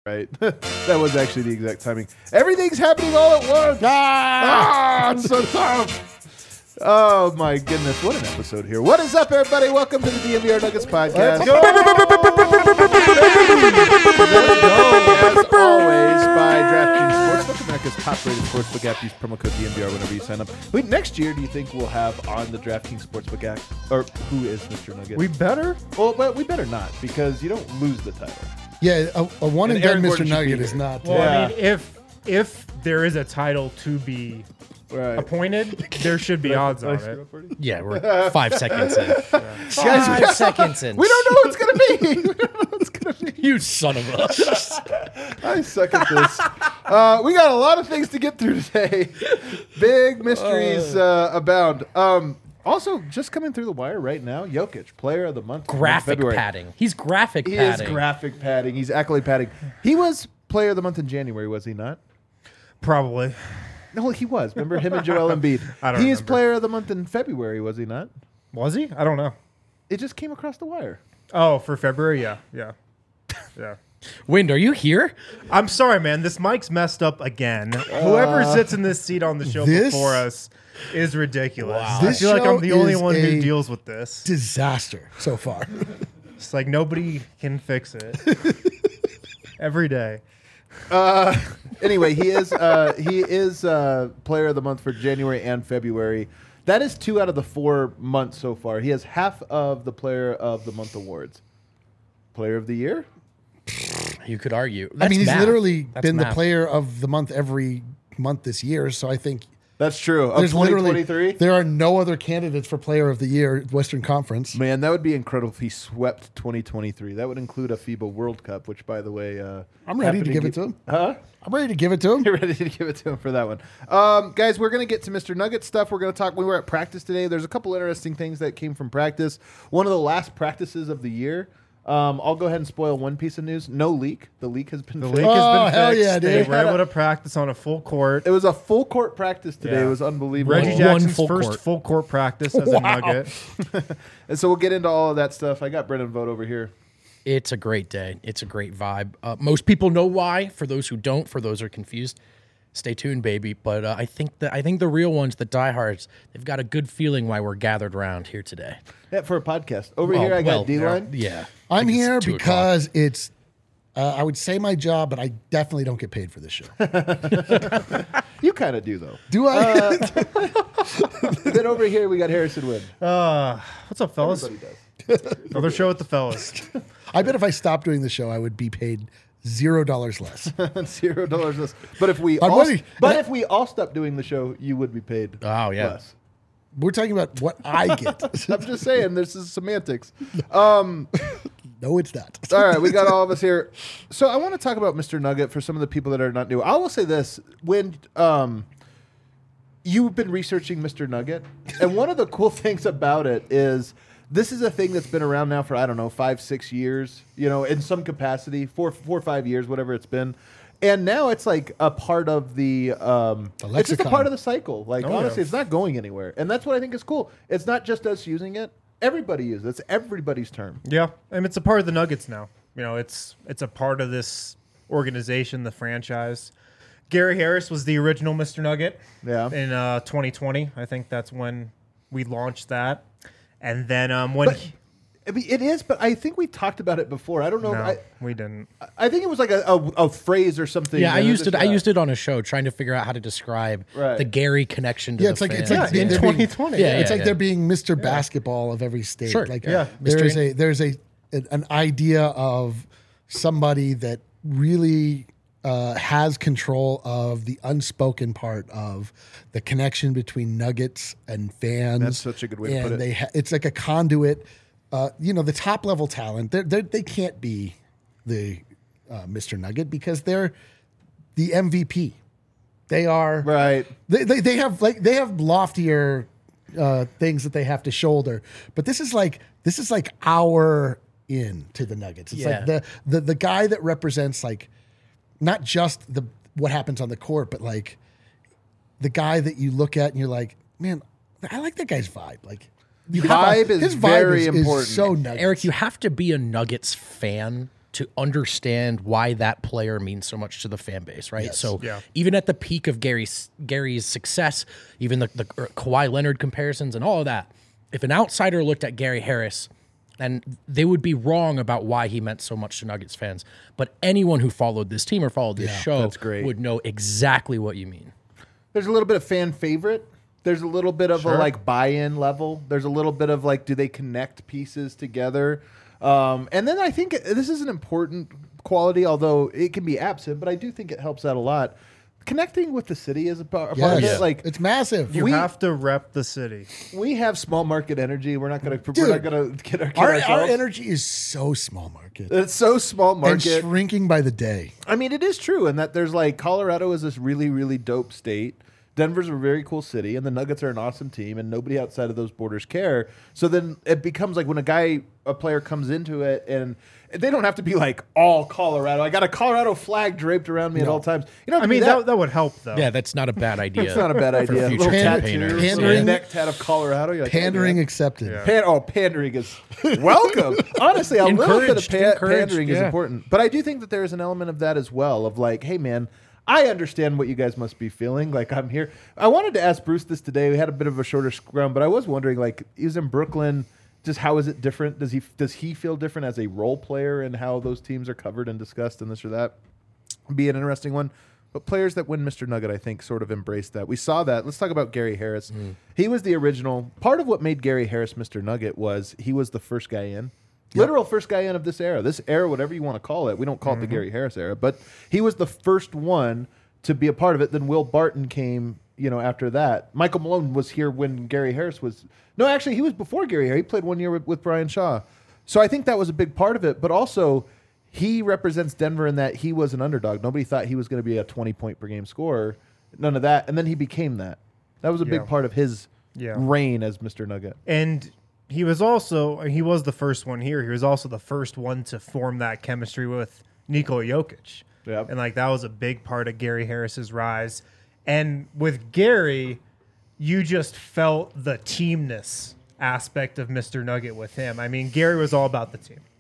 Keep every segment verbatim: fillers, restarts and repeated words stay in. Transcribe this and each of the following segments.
Right. That was actually the exact timing. Everything's happening all at once. Ah, ah it's so tough. Oh, my goodness. What an episode here. What is up, everybody? Welcome to the D M V R Nuggets podcast. Let's go. As always, by DraftKings Sportsbook, America's top-rated sportsbook app. Use promo code D M V R whenever you sign up. Wait, next year, do you think we'll have on the DraftKings Sportsbook app, or who is Mister Nugget? We better? Well, but we better not, because you don't lose the title. Yeah, a, a one and, and done Mister Nugget is not. Well, yeah. I mean, if if there is a title to be right. appointed, there should be odds on it. Yeah, we're five seconds in. Yeah. Five yeah. seconds in. We don't know what it's gonna be. We don't know what it's gonna be. You son of a. I suck at this. Uh, we got a lot of things to get through today. Big mysteries uh, abound. Um, Also, just coming through the wire right now, Jokic, player of the month. Graphic padding. He's graphic he padding. He is graphic padding. He's accolade padding. He was player of the month in January, was he not? Probably. No, he was. Remember him and Joel Embiid? I don't He remember. is player of the month in February, was he not? Was he? I don't know. It just came across the wire. Oh, for February? Yeah. Yeah. Yeah. Wind, are you here? I'm sorry, man. This mic's messed up again. Uh, Whoever sits in this seat on the show this? before us is ridiculous. Wow. I This feel like I'm the show only is one who a deals with this. Disaster so far. It's like nobody can fix it. Every day. Uh, anyway, he is uh, he is uh, player of the month for January and February. That is two out of the four months so far. He has half of the player of the month awards. Player of the year? You could argue. I That's mean, he's math. literally That's been math. the player of the month every month this year. So I think That's true. Of there's literally twenty twenty-three? there are no other candidates for player of the year at Western Conference. Man, that would be incredible if he swept twenty twenty-three. That would include a FIBA World Cup, which, by the way, uh, I'm ready to happened give ge- it to him. Huh? I'm ready to give it to him. You're ready to give it to him for that one. Um, guys, we're going to get to Mister Nugget stuff. We're going to talk. We were at practice today. There's a couple interesting things that came from practice. One of the last practices of the year. Um, I'll go ahead and spoil one piece of news. No leak. The leak has been The fixed. leak has Oh, been hell fixed. yeah, They dude. were able to practice on a full court. It was a full court practice today. Yeah. It was unbelievable. Reggie One Jackson's full first court. full court practice as Wow. a Nugget. And so we'll get into all of that stuff. I got Brendan Vogt over here. It's a great day. It's a great vibe. Uh, most people know why. For those who don't, for those who are confused, stay tuned, baby. But uh, I think that I think the real ones, the diehards, they've got a good feeling why we're gathered around here today. Yeah, for a podcast. Over Well, here, I well, got D-Line. Yeah, I'm Like it's here two because it's, uh, I would say my job, but I definitely don't get paid for this show. You kind of do, though. Do I? Then over here, we got Harrison Wind. Uh, what's up, fellas? Everybody does. Another show with the fellas. I bet if I stopped doing the show, I would be paid zero dollars less. Zero dollars less. But if we I'm all, ready. but That- if we all stopped doing the show, you would be paid. Oh, yeah. less. We're talking about what I get. I'm just saying, this is semantics. Um, No, it's not. all right, we got all of us here. So I want to talk about Mister Nugget for some of the people that are not new. I will say this: when um, you've been researching Mister Nugget, and one of the cool things about it is this is a thing that's been around now for I don't know five, six years. You know, in some capacity, four, four, or five years, whatever it's been. And now it's like a part of the, um, The it's just a lexicon. part of the cycle. Like, Oh, honestly, yeah. it's not going anywhere. And that's what I think is cool. It's not just us using it. Everybody uses it. It's everybody's term. Yeah, and it's a part of the Nuggets now. You know, it's it's a part of this organization, the franchise. Gary Harris was the original Mister Nugget. Yeah. In uh, twenty twenty, I think that's when we launched that. And then um, when But, he- I mean, it is, but I think we talked about it before. I don't know. no, I, we didn't. I think it was like a, a, a phrase or something. Yeah, I that used it. just, I uh, used it on a show trying to figure out how to describe Right. the Gary connection to Yeah, the it's like it's fans. like Yeah, in they're twenty being- twenty. Yeah, it's yeah, like yeah. they're being Mister Basketball of every state. Sure. Like Yeah. there is Mystery. a there's a an idea of somebody that really uh, has control of the unspoken part of the connection between Nuggets and fans. That's such a good way to and put it. They ha- it's like a conduit. Uh, you know, the top level talent, they're, they're, they can't be the uh, Mister Nugget because they're the M V P. They are Right. They, they they have like they have loftier uh, things that they have to shoulder, but this is like this is like our in to the Nuggets. It's Yeah. like the, the the guy that represents like not just the what happens on the court, but like the guy that you look at and you're like, man, I like that guy's vibe. Like you have Vibe is his vibe very is, is important. so Nuggets. Eric, you have to be a Nuggets fan to understand why that player means so much to the fan base, right? Yes. So Yeah. even at the peak of Gary's Gary's success, even the, the Kawhi Leonard comparisons and all of that, if an outsider looked at Gary Harris, and they would be wrong about why he meant so much to Nuggets fans, but anyone who followed this team or followed this Yeah, show that's great. would know exactly what you mean. There's a little bit of fan favorite. There's a little bit of Sure. a like buy-in level. There's a little bit of like, do they connect pieces together? Um, and then I think this is an important quality, although it can be absent, but I do think it helps out a lot. Connecting with the city is a part, a part of Yes. it. Like It's massive. You We- have to rep the city. we have small market energy. We're not gonna we're Dude, not gonna get, our, get our, our ourselves. energy is so small market It's so small and market. shrinking by the day. I mean, it is true, and that there's like Colorado is this really, really dope state. Denver's a very cool city, and the Nuggets are an awesome team, and nobody outside of those borders care. So then it becomes like when a guy, a player comes into it, and they don't have to be like all Colorado. I got a Colorado flag draped around me at all times. You know, I mean, that, that would help, though. Yeah, that's not a bad idea. it's not a bad for idea. future Little campaigners. tattoos, Pandering- a neck tat of Colorado. You're like, Pandering okay. accepted. Yeah. Pan- oh, pandering is welcome. Honestly, a little bit of Encouraged, pa- encouraged, pandering is yeah. important, but I do think that there is an element of that as well. Of like, hey, man, I understand what you guys must be feeling. Like, I'm here. I wanted to ask Bruce this today. We had a bit of a shorter scrum, but I was wondering, like, he was in Brooklyn. Just how is it different? Does he does he feel different as a role player and how those teams are covered and discussed and this or that? Be an interesting one. But players that win Mister Nugget, I think, sort of embraced that. We saw that. Let's talk about Gary Harris. He was the original. Part of what made Gary Harris Mister Nugget was he was the first guy in. Literal first guy in of this era. This era, whatever you want to call it. We don't call it the Gary Harris era, but he was the first one to be a part of it. Then Will Barton came, you know, after that. Michael Malone was here when Gary Harris was. No, actually, he was before Gary Harris. He played one year with, with Brian Shaw. So I think that was a big part of it. But also, he represents Denver in that he was an underdog. Nobody thought he was going to be a twenty-point per game scorer. None of that. And then he became that. That was a big Yeah. part of his Yeah. reign as Mister Nugget. And he was also, he was the first one here. He was also the first one to form that chemistry with Nikola Jokic. Yep. And like that was a big part of Gary Harris's rise. And with Gary, you just felt the teamness aspect of Mister Nugget with him. I mean, Gary was all about the team.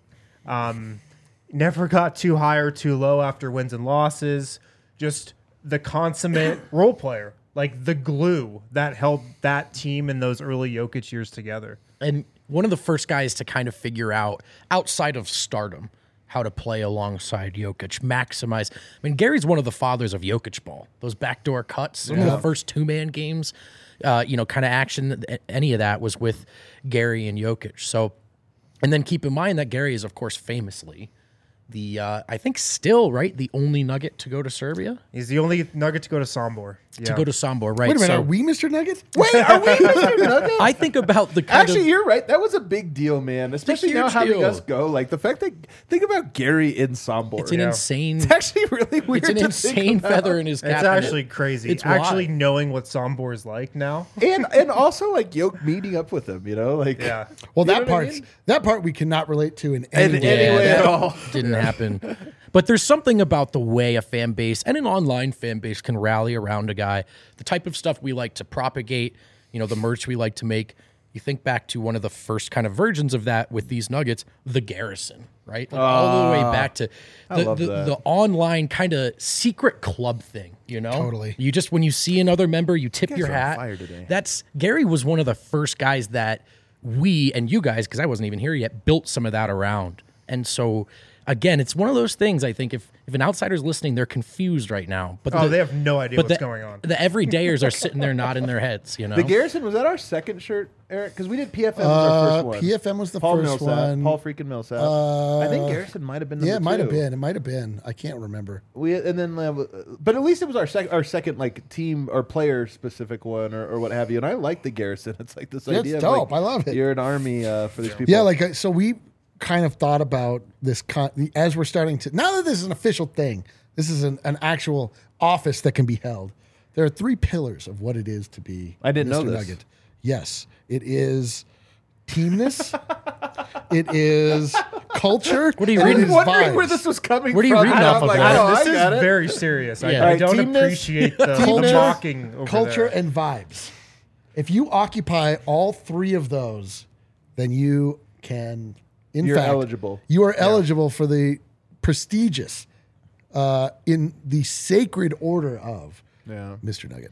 Um, never got too high or too low after wins and losses. Just the consummate role player, like the glue that held that team in those early Jokic years together. And one of the first guys to kind of figure out, outside of stardom, how to play alongside Jokic, maximize. I mean, Gary's one of the fathers of Jokic ball. Those backdoor cuts, some of the first two-man games, uh, you know, kind of action, any of that was with Gary and Jokic. So, and then keep in mind that Gary is, of course, famously the, uh, I think still, right, the only Nugget to go to Serbia? He's the only Nugget to go to Sombor. To go to Sombor, right? Wait a minute, So are we Mister Nugget? Wait, are we Mister Nugget? I think about the kind Actually, of... you're right. That was a big deal, man. Especially now huge having deal. us go. Like the fact that think about Gary in Sombor. It's an Yeah. insane... It's actually really weird. It's an to insane think about. feather in his cap. It's actually crazy. It's actually wild. knowing what Sombor is like now. and and also like Yoke meeting up with him. You know, like Yeah. Well, You know that what I part, mean? that part we cannot relate to in in any any way. way that at all. didn't happen. But there's something about the way a fan base and an online fan base can rally around a guy, the type of stuff we like to propagate, you know, the merch we like to make. You think back to one of the first kind of versions of that with these Nuggets, the Garrison, right? Like all the way back to the, love the, that. the online kind of secret club thing, you know? Totally. You just, when you see another member, you tip your are on hat. fire today. That's, Gary was one of the first guys that we and you guys, because I wasn't even here yet, built some of that around. And so, again, it's one of those things. I think if, if an outsider's listening, they're confused right now. But Oh, the, they have no idea but what's the, going on. The everydayers are sitting there nodding their heads. You know, The Garrison, was that our second shirt, Eric? Because we did P F M was our first Uh, one. P F M was the Paul first Millsap, one. Paul freaking Millsap. Uh, I think Garrison might have been. Number Yeah, it might have two. been. It might have been. I can't remember. We and then, uh, but at least it was our second, our second like team or player specific one or, or what have you. And I like the Garrison. It's like this Yeah, idea. it's of, dope. like, I love it. You're an army uh, for these people. Yeah, like uh, so we kind of thought about this con- as we're starting to. Now that this is an official thing, this is an, an actual office that can be held. There are three pillars of what it is to be. I didn't know Mister this. Nugget. Yes, it is teamness. It is culture. What are you and I it was reading? is wondering vibes. where this was coming What are you from. reading and off I'm of like, there? oh, this I got is it. very serious. I, Yeah. I Right, don't teamness- appreciate the, the Teamness, mocking over culture there. and vibes. If you occupy all three of those, then you can. In You're fact, eligible. You are eligible for the prestigious uh, in the sacred order of Yeah. Mister Nugget.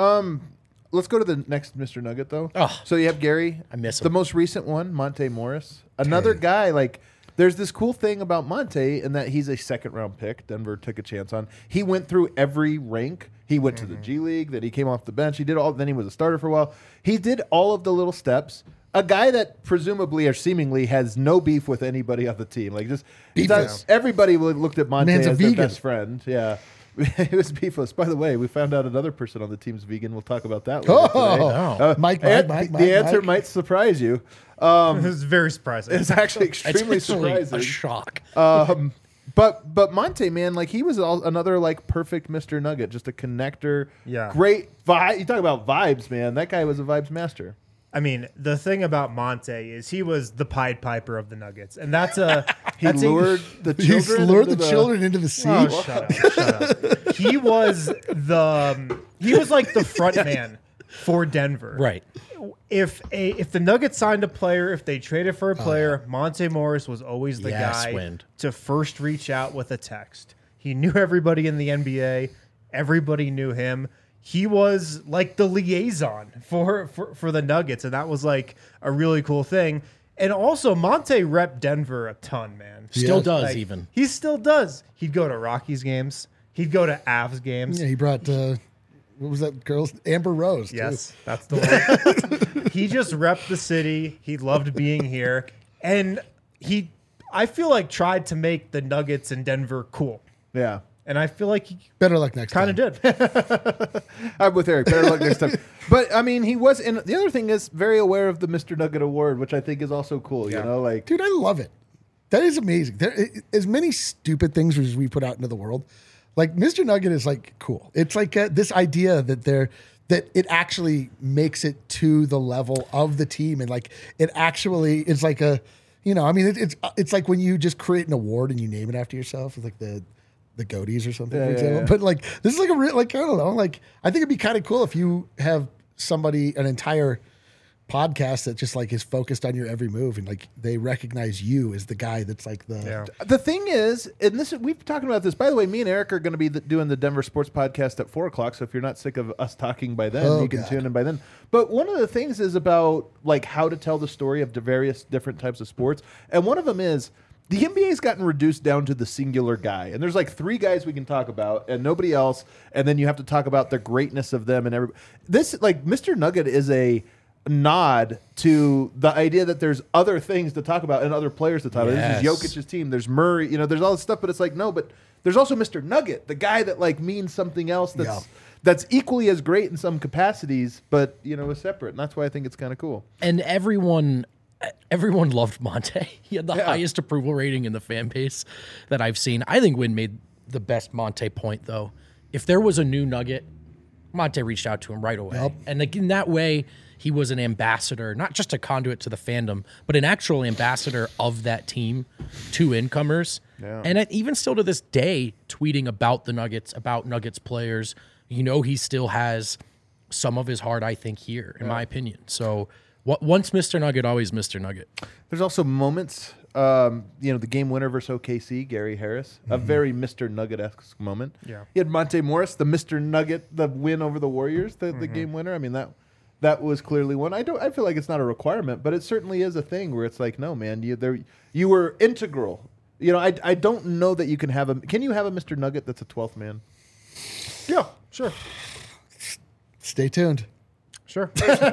Let's go to the next Mister Nugget, though. Oh. So you have Gary. I miss The him. most recent one, Monte Morris. Another guy, like, there's this cool thing about Monte in that he's a second round pick. Denver took a chance on. He went through every rank. He went to the G League, then he came off the bench. He did all, then he was a starter for a while. He did all of the little steps. A guy that presumably or seemingly has no beef with anybody on the team. Like, just, Beefless. that's- everybody looked at Monte Man's a as their vegan. best friend. Yeah. He was beefless. By the way, we found out another person on the team's vegan. We'll talk about that later Oh, today. oh. Mike, Mike, and Mike, the Mike, answer Mike. might surprise you. Um, It was very surprising. it's actually It's extremely actually surprising. a shock. Um, but but Monte, man, like he was all, another like perfect Mister Nugget, just a connector. Yeah. Great vibe. You talk about vibes, man. That guy was a vibes master. I mean, the thing about Monte is he was the Pied Piper of the Nuggets, and that's a He that's a- lured the He's children. lured the, into children into the sea. Oh, shut up! Shut up! He was the um, he was like the front man for Denver. Right. If a if the Nuggets signed a player, if they traded for a player, Monte Morris was always the Yes, guy Wind. to first reach out with a text. He knew everybody in the N B A. Everybody knew him. He was like the liaison for, for, for the Nuggets, and that was like a really cool thing. And also, Monte repped Denver a ton, man. Still Yeah. does Like, even. He still does. He'd go to Rockies games. He'd go to Avs games. Yeah, he brought, uh, what was that girl's? Amber Rose. too. Yes, that's the one. He just repped the city. He loved being here. And he, I feel like, tried to make the Nuggets in Denver cool. Yeah. And I feel like he Better luck next kind time. of did. I'm with Eric. Better luck next time. But I mean, he was. And the other thing is very aware of the Mister Nugget Award, which I think is also cool. Yeah. You know, like Dude, I love it. That is amazing. There, i- as many stupid things as we put out into the world, like Mister Nugget is like cool. It's like uh, this idea that they're that it actually makes it to the level of the team, and like it actually is like a, you know, I mean, it, it's it's like when you just create an award and you name it after yourself. It's like the the Goaties or something, Yeah, for yeah, example. yeah. But like this is like a real, like I don't know, like I think it'd be kind of cool if you have somebody an entire podcast that just like is focused on your every move and like they recognize you as the guy that's like the Yeah. the thing is, and this we've been talking about this. By the way, me and Eric are going to be the, doing the Denver Sports Podcast at four o'clock. So if you're not sick of us talking by then, Oh, you can God. tune in by then. But one of the things is about like how to tell the story of the various different types of sports, and one of them is the N B A's gotten reduced down to the singular guy, and there's like three guys we can talk about, and nobody else. And then you have to talk about the greatness of them and every this like Mister Nugget is a nod to the idea that there's other things to talk about and other players to talk about. Yes. This is Jokic's team. There's Murray. You know, there's all this stuff, but it's like no, but there's also Mister Nugget, the guy that like means something else that's Yeah. that's equally as great in some capacities, but you know, is separate. And that's why I think it's kind of cool. And everyone everyone loved Monte. He had the Yeah. highest approval rating in the fan base that I've seen. I think Win made the best Monte point though. If there was a new Nugget, Monte reached out to him right away. Yep. And like in that way, he was an ambassador, not just a conduit to the fandom, but an actual ambassador of that team to incomers. Yeah. And it, even still to this day, tweeting about the Nuggets, about Nuggets players, you know, he still has some of his heart, I think, here, in my opinion. So what, once Mister Nugget, always Mister Nugget. There's also moments, um, you know, the game winner versus O K C, Gary Harris, a very Mister Nugget-esque moment. Yeah. You had Monte Morris, the Mister Nugget, the win over the Warriors, the, the game winner. I mean, that that was clearly one. I don't. I feel like it's not a requirement, but it certainly is a thing where it's like, no, man, you there, you were integral. You know, I, I don't know that you can have a. Can you have a Mister Nugget that's a twelfth man? Yeah, sure. stay tuned. Sure.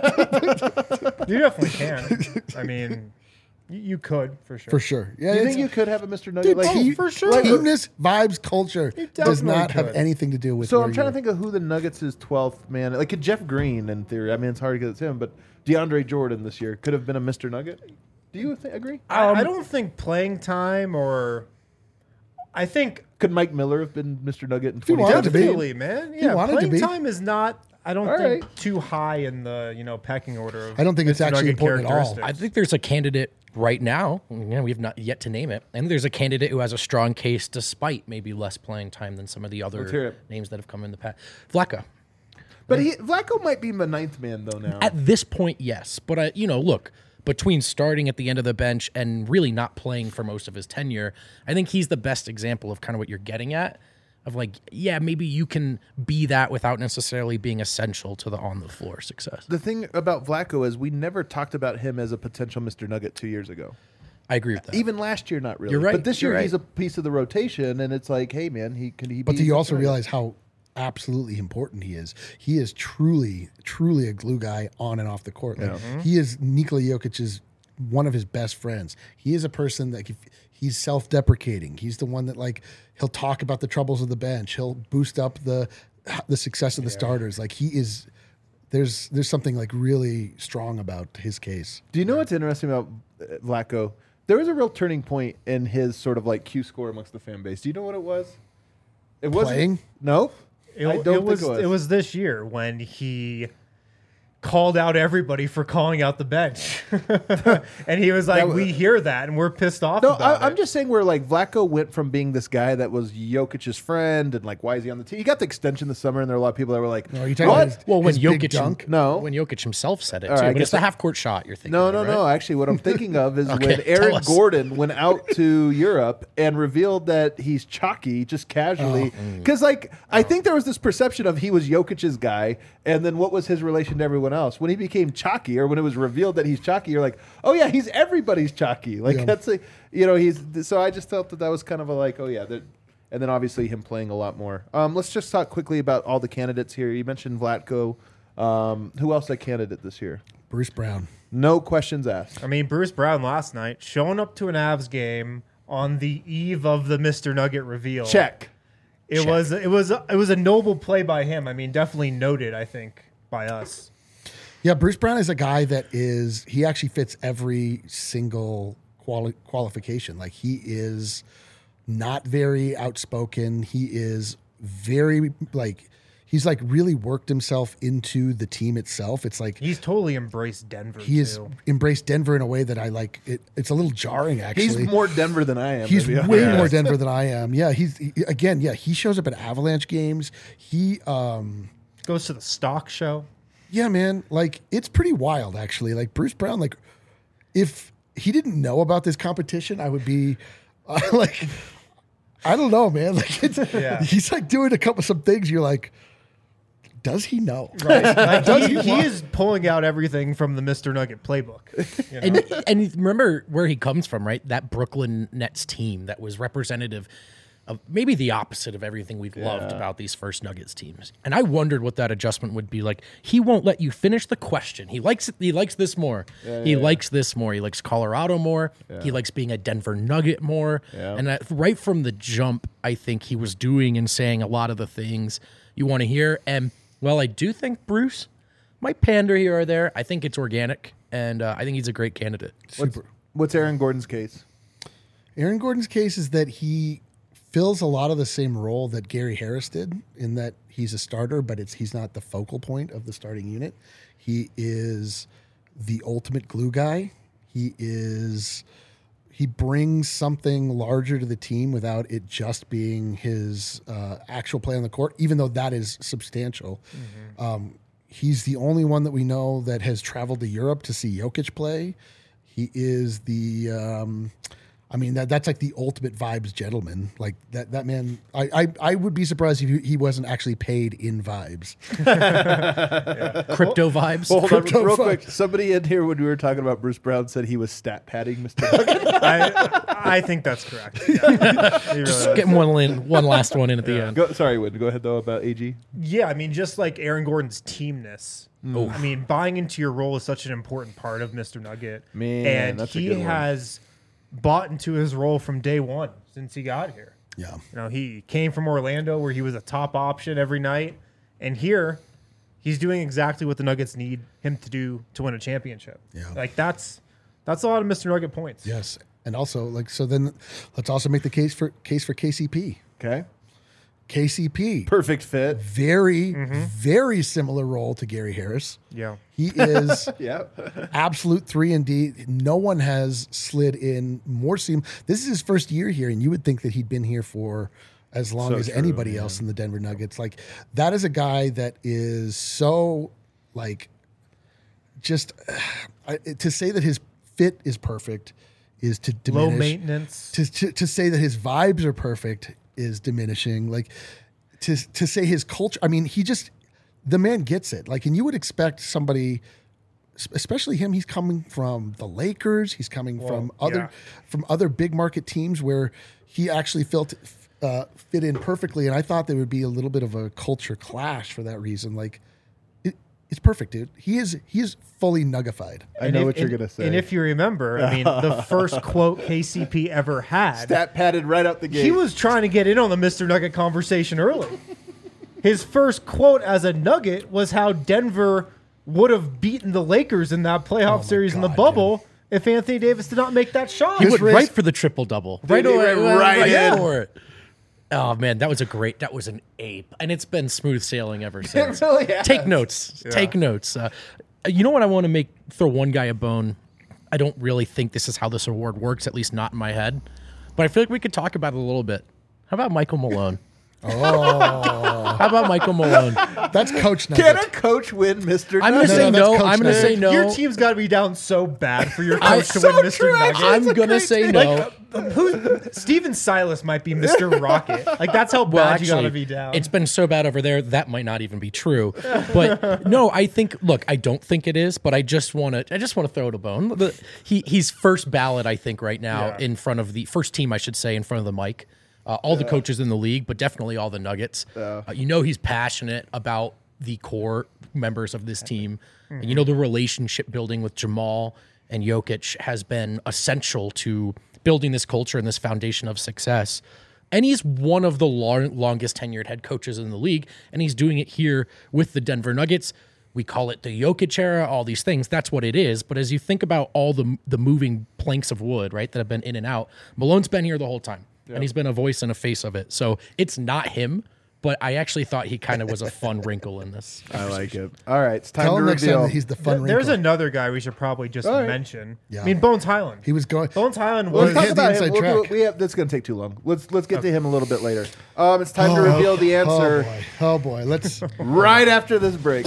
You definitely can. I mean, y- you could for sure. For sure. Yeah, Do you it's- think you could have a Mister Nugget? dude, like, team- for sure. teamness, vibes, culture You does definitely not have could. anything to do with So where I'm trying to you're- think of who the Nuggets' is twelfth man. Like, could Jeff Green, in theory, I mean, it's hard because it's him, but DeAndre Jordan this year could have been a Mister Nugget. Do you th- agree? I, I don't think playing time or I think Could Mike Miller have been Mister Nugget in he wanted to be. definitely, man. Yeah, wanted to playing be. time is not. I don't All think right. too high in the you know pecking order. Of I don't think it's Mister actually Nugget important at all. characteristics. I think there's a candidate right now. Yeah, we have not yet to name it. And there's a candidate who has a strong case despite maybe less playing time than some of the Let's hear other it. names that have come in the past. Vlaco. But he, Vlaco might be the ninth man, though, now. At this point, yes. But, I, you know, look, between starting at the end of the bench and really not playing for most of his tenure, I think he's the best example of kind of what you're getting at. Of like, yeah, maybe you can be that without necessarily being essential to the on-the-floor success. The thing about Vlatko is we never talked about him as a potential Mister Nugget two years ago. I agree with that. Even last year, not really. You're right. But this You're year, right. he's a piece of the rotation, and it's like, hey, man, he can he be... But do you also Mister Nugget? realize how absolutely important he is? He is truly, truly a glue guy on and off the court. Like, he is Nikola Jokic's one of his best friends. He is a person that if, he's self-deprecating. He's the one that like he'll talk about the troubles of the bench. He'll boost up the the success of the starters. Like he is. There's there's something like really strong about his case. Do you know what's interesting about uh, Vlatko? There was a real turning point in his sort of like Q score amongst the fan base. Do you know what it was? It wasn't- Playing? No. It, I don't it was, think it was. it was this year when he called out everybody for calling out the bench, and he was like, That- "We hear that, and we're pissed off." No, about I, I'm it." just saying where like Vlatko went from being this guy that was Jokic's friend and like why is he on the team? He got the extension this summer, and there were a lot of people that were like, No, are you talking "What?" about his, Well, when his big Jokic dunk? No. when Jokic himself said it All too, right, I but guess it's the I- half court shot you're thinking. No, of, no, right? no. Actually, what I'm thinking of is Okay, when tell Aaron us. Gordon went out to Europe and revealed that he's chalky just casually. Oh. Because, like, I think there was this perception of he was Jokic's guy, and then what was his relation to everyone else? When he became chalky, or when it was revealed that he's chalky, you're like, oh yeah, he's everybody's chalky. Like Yeah. that's a, you know, he's. So I just felt that that was kind of a like, oh yeah, that. And then obviously him playing a lot more. Um, let's just talk quickly about all the candidates here. You mentioned Vlatko. Um, who else a candidate this year? Bruce Brown. No questions asked. I mean, Bruce Brown last night showing up to an Avs game on the eve of the Mister Nugget reveal. Check. It Check. was it was it was a noble play by him. I mean, definitely noted. I think by us. Yeah, Bruce Brown is a guy that is, he actually fits every single quali- qualification. Like he is not very outspoken. He is very like, he's like really worked himself into the team itself. It's like He's totally embraced Denver. he has too. embraced Denver in a way that I like. It, it's a little jarring actually. He's more Denver than I am. He's to be way honest. more Denver than I am. Yeah, he's he, again, yeah, he shows up at Avalanche games. He um Goes to the stock show. Yeah, man. Like it's pretty wild, actually. Like Bruce Brown, like if he didn't know about this competition, I would be uh, like, I don't know, man. Like it's, Yeah. he's like doing a couple some things. You're like, does he know? Like, Does he, he he want- is pulling out everything from the Mister Nugget playbook. you know? And and remember where he comes from, right? That Brooklyn Nets team that was representative of maybe the opposite of everything we've loved about these first Nuggets teams. And I wondered what that adjustment would be like. He won't let you finish the question. He likes it. He likes this more. he likes this more. He likes Colorado more. He likes being a Denver Nugget more. Yeah. And that, right from the jump, I think he was doing and saying a lot of the things you want to hear. And well, I do think Bruce might pander here or there. I think it's organic, and uh, I think he's a great candidate. What's, what's Aaron Gordon's case? Aaron Gordon's case is that he fills a lot of the same role that Gary Harris did in that he's a starter, but it's he's not the focal point of the starting unit. He is the ultimate glue guy. He is he brings something larger to the team without it just being his uh, actual play on the court, even though that is substantial. Um, he's the only one that we know that has traveled to Europe to see Jokic play. He is the um, I mean, that that's like the ultimate vibes gentleman. Like that that man, I I, I would be surprised if he, he wasn't actually paid in vibes. Crypto vibes. Well, hold on, Crypto real fuck. quick. Somebody in here when we were talking about Bruce Brown said he was stat padding Mister Nugget. I, I think that's correct. Yeah. He really is. Getting one in, one last one in at the end. Go, sorry, Win. Go ahead though about A G. Yeah, I mean, just like Aaron Gordon's teamness. Mm. I mean, buying into your role is such an important part of Mister Nugget. Man, and that's a he good one. has bought into his role from day one since he got here. Yeah. You know, he came from Orlando where he was a top option every night, and here he's doing exactly what the Nuggets need him to do to win a championship. Yeah. Like that's that's a lot of Mister Nugget points. Yes. And also, like, so then let's also make the case for case for K C P. Okay, K C P, perfect fit. very, very similar role to Gary Harris. Yeah. He is Yeah, absolute three and D. No one has slid in more seam. This is his first year here, and you would think that he'd been here for as long So as true, anybody else in the Denver Nuggets. Like that is a guy that is so like just uh, I- to say that his fit is perfect is to Low diminish. maintenance. To, to to say that his vibes are perfect is diminishing. Like to to say his culture. I mean, he just the man gets it. Like, and you would expect somebody, especially him. He's coming from the Lakers. He's coming Well, from other yeah. from other big market teams where he actually felt uh, fit in perfectly. And I thought there would be a little bit of a culture clash for that reason. Like, it, it's perfect, dude. He is he is fully nuggified. I And know if- what you're and- gonna say. And if you remember, I mean, the first quote K C P ever had, Stat padded right out the gate. he was trying to get in on the Mister Nugget conversation early. His first quote as a Nugget was how Denver would have beaten the Lakers in that playoff Oh my series in the God, bubble if Anthony Davis did not make that shot. He This went race- right for the triple double. Right he away, went right in. for it. Oh man, that was a great. That was an ape, and it's been smooth sailing ever since. really has. Take notes. Take notes. Uh, you know what? I want to make throw one guy a bone. I don't really think this is how this award works, at least not in my head. But I feel like we could talk about it a little bit. How about Michael Malone? Oh, How about Michael Malone? that's Coach Can Nugget. a coach win Mister I'm gonna Nugget? say no, that's no. Coach I'm gonna Nugget. say no. Your team's got to be down so bad for your I- coach to so win Mister true, Nugget. actually. I'm It's a gonna great say take. no. Who? Steven Silas might be Mister Rocket. Like, that's how bad Well, you got to actually, be down. it's been so bad over there that might not even be true. But no, I think. Look, I don't think it is. But I just want to. I just want to throw it a bone. The, he he's first ballot, I think, right now Yeah. in front of the first team, I should say, in front of the mic. Uh, all the coaches in the league, but definitely all the Nuggets. Uh, you know, he's passionate about the core members of this team, and you know the relationship building with Jamal and Jokic has been essential to building this culture and this foundation of success. And he's one of the long, longest tenured head coaches in the league, and he's doing it here with the Denver Nuggets. We call it the Jokic era, all these things. That's what it is. But as you think about all the the moving planks of wood, right, that have been in and out, Malone's been here the whole time, and he's been a voice and a face of it. So it's not him, but I actually thought he kind of was a fun wrinkle in this. I like it. All right, it's time Tell to him next time reveal. that he's the fun Th- There's wrinkle. another guy we should probably just All right. mention. Yeah. I mean, Bones Highland. He was going. Bones Highland Let's was. talk hit the about him. inside We'll do track. it. We have. That's going to take too long. Let's let's get to him a little bit later. Um, it's time to reveal the Oh answer boy. Oh boy. Let's. right after this break.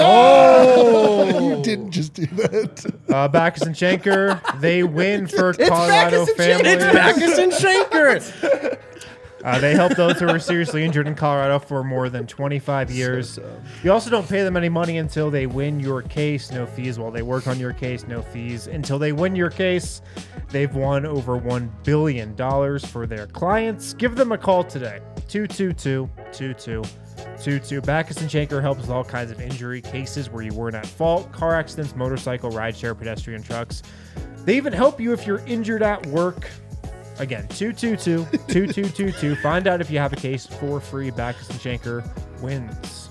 You didn't just do that. Uh, Backus and Schenker, they win for Colorado Backus and families. Schenker. Backus and Shanker. Uh, they help those who are seriously injured in Colorado for more than twenty-five years. You also don't pay them any money until they win your case. No fees while they work on your case. No fees until they win your case. They've won over one billion dollars for their clients. Give them a call today. two two two, two two two two. Backus and Schenker helps with all kinds of injury cases where you weren't at fault. Car accidents, motorcycle, rideshare, pedestrian trucks. They even help you if you're injured at work. Again, two two two, two two two two. Find out if you have a case for free. Backus and Schenker wins.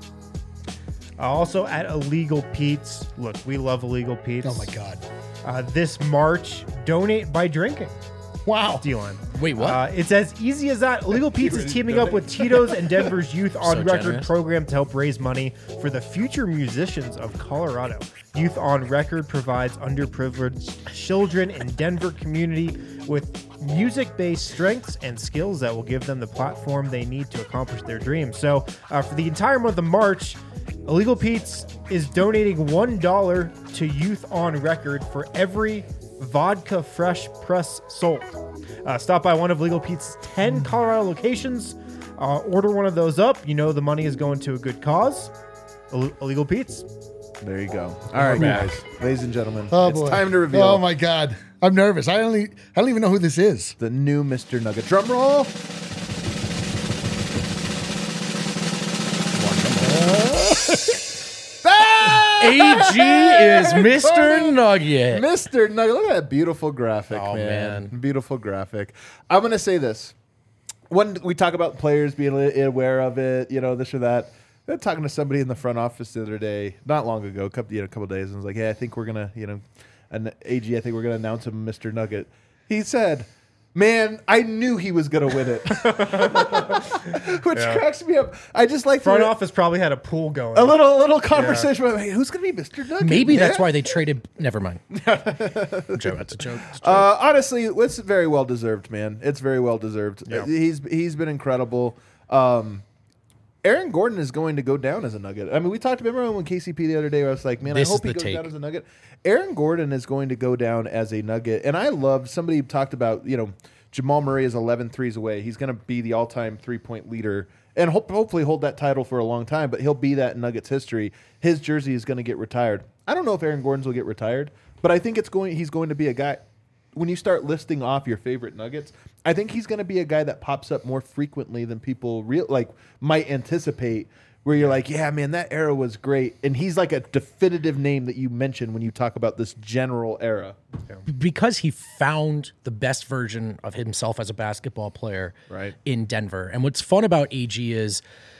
Uh, also at Illegal Pete's. Look, we love Illegal Pete's. Oh my God. Uh, this March, donate by drinking. Wow. D-line. Wait, what? Uh, it's as easy as that. Illegal Pete's is teaming up with Tito's and Denver's Youth on So Record generous. program to help raise money for the future musicians of Colorado. Youth on Record provides underprivileged children in Denver community with music-based strengths and skills that will give them the platform they need to accomplish their dreams. So uh, for the entire month of March, Illegal Pete's is donating one dollar to Youth on Record for every vodka fresh press sold. Uh, stop by one of Legal Pete's ten Colorado locations. Uh, order one of those up. You know the money is going to a good cause. Ill- Illegal Pete's. There you go. All right, back. guys, ladies and gentlemen, Oh it's boy. time to reveal Oh my God. I'm nervous. I only. I don't even know who this is. the new Mister Nugget. Drum roll. A G is Mister Nugget. Mister Nugget. Look at that beautiful graphic, Oh, man. man. Beautiful graphic. I'm going to say this. When we talk about players being aware of it, you know, this or that, I was talking to somebody in the front office the other day, not long ago, a couple, you know, a couple days, and was like, hey, I think we're going to, you know, an A G, I think we're going to announce him Mister Nugget. He said, man, I knew he was going to win it. Which Yeah. cracks me up. I just like Front the- office probably had a pool going. a little little conversation about, hey, who's going to be Mister Nugget? Maybe that's man? why they traded. Never mind. joke. That's a joke. It's a joke. Uh, honestly, it's very well deserved, man. It's very well deserved. Yeah. Uh, He's he's been incredible. Um, Aaron Gordon is going to go down as a Nugget. I mean, we talked, remember when K C P the other day, where I was like, man, This I hope is he the goes take. down as a Nugget. Aaron Gordon is going to go down as a Nugget. And I love, somebody talked about, you know, Jamal Murray is eleven threes away. He's going to be the all-time three-point leader and hope, hopefully hold that title for a long time, but he'll be that in Nuggets history. His jersey is going to get retired. I don't know if Aaron Gordon's will get retired, but I think it's going. he's going to be a guy. When you start listing off your favorite Nuggets, I think he's going to be a guy that pops up more frequently than people real like might anticipate. Where you're like, yeah, man, that era was great, and he's like a definitive name that you mention when you talk about this general era. Because he found the best version of himself as a basketball player Right. in Denver. And what's fun about A G is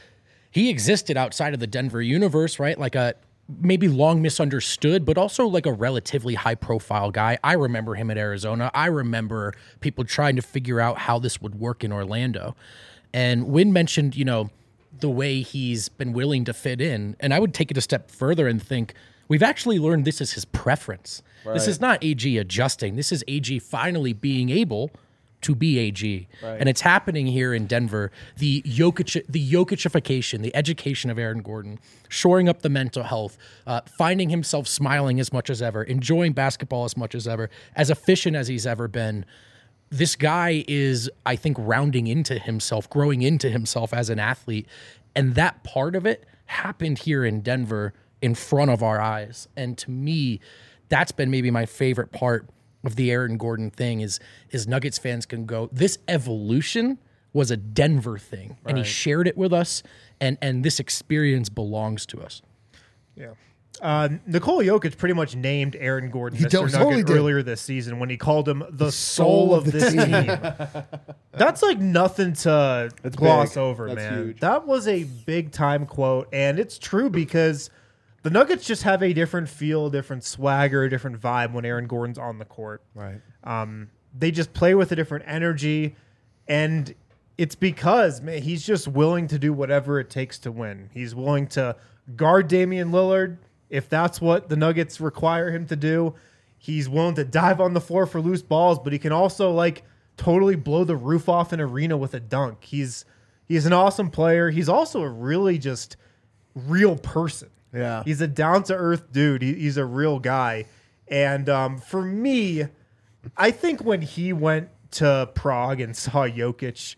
he existed outside of the Denver universe, right? Like a maybe long misunderstood, but also like a relatively high profile guy. I remember him at Arizona. I remember people trying to figure out how this would work in Orlando. And Wynn mentioned, you know, the way he's been willing to fit in. And I would take it a step further and think we've actually learned this is his preference. This is not A G adjusting. This is A G finally being able to be A G. Right. And it's happening here in Denver. The Jokic, the Jokicification, the education of Aaron Gordon, shoring up the mental health, uh, finding himself smiling as much as ever, enjoying basketball as much as ever, as efficient as he's ever been. This guy is, I think, rounding into himself, growing into himself as an athlete. And that part of it happened here in Denver in front of our eyes. And to me, that's been maybe my favorite part of the Aaron Gordon thing is, is Nuggets fans can go, this evolution was a Denver thing. And he shared it with us. And, and this experience belongs to us. Yeah. Uh, Nikola Jokic pretty much named Aaron Gordon He Mister totally Nugget did. earlier this season when he called him the, soul, of, this team. That's like nothing to That's gloss big. over, That's man. huge. That was a big time quote, and it's true because the Nuggets just have a different feel, different swagger, a different vibe when Aaron Gordon's on the court. Right. Um, they just play with a different energy, and it's because man, he's just willing to do whatever it takes to win. He's willing to guard Damian Lillard if that's what the Nuggets require him to do. He's willing to dive on the floor for loose balls, but he can also like totally blow the roof off an arena with a dunk. He's he's an awesome player. He's also a really just real person. Yeah. He's a down-to-earth dude. He, he's a real guy. And um, for me, I think when he went to Prague and saw Jokic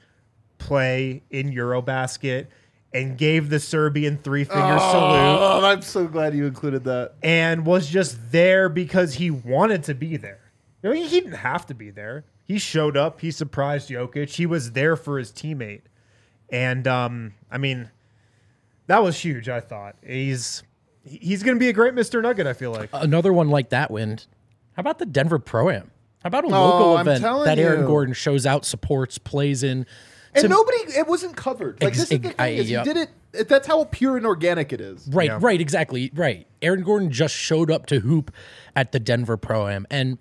play in Eurobasket and gave the Serbian three-finger salute Oh, I'm so glad you included that. and was just there because he wanted to be there. I mean, he didn't have to be there. He showed up. He surprised Jokic. He was there for his teammate. And, um, I mean, that was huge, I thought. He's he's going to be a great Mister Nugget, I feel like. Another one like that, Wind. How about the Denver Pro-Am? How about a local I'm event telling that Aaron you. Gordon shows out, supports, plays in? And To- nobody, it wasn't covered. Like, Ex- this is the ex- thing, I- is yep. he did it, it, that's how pure and organic it is. Right, Yeah. right, exactly, right. Aaron Gordon just showed up to hoop at the Denver Pro-Am. And,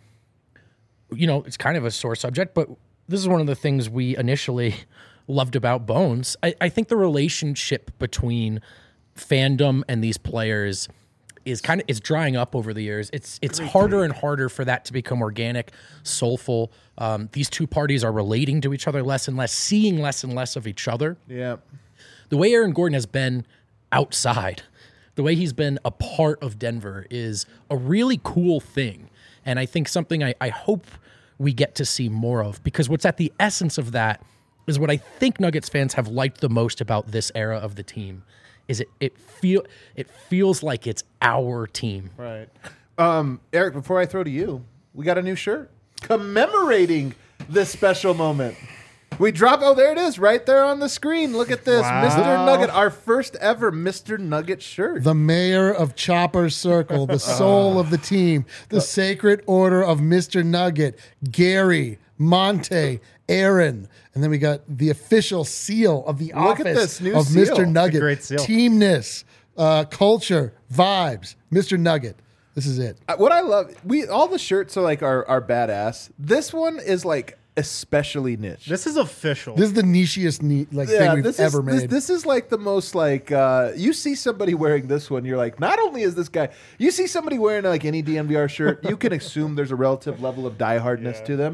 you know, it's kind of a sore subject, but this is one of the things we initially loved about Bones. I, I think the relationship between fandom and these players is kind of it's drying up over the years. It's it's harder and harder for that to become organic, soulful. Um, these two parties are relating to each other less and less, seeing less and less of each other. Yeah. The way Aaron Gordon has been outside, the way he's been a part of Denver is a really cool thing. And I think something I, I hope we get to see more of, because what's at the essence of that is what I think Nuggets fans have liked the most about this era of the team is it it feel it feels like it's our team. Right. Um, Eric, before I throw to you, we got a new shirt commemorating this special moment. We drop, oh, there it is, right there on the screen. Look at this. Wow. Mister Nugget, our first ever Mister Nugget shirt. The mayor of Chopper Circle, the soul of the team, the sacred order of Mister Nugget, Gary, Monte, Aaron. And then we got the official seal of the Look at office this new of seal. Mister Nugget. great seal. Teamness, uh, culture, vibes. Mister Nugget. This is it. Uh, What I love, we all the shirts are like are, are badass. This one is like especially niche. This is official. This is the nichiest neat like thing we've this ever is, made. This, this is like the most like uh, you see somebody wearing this one, you're like, not only is this guy, you see somebody wearing like any D N V R shirt, you can assume there's a relative level of diehardness Yeah. to them.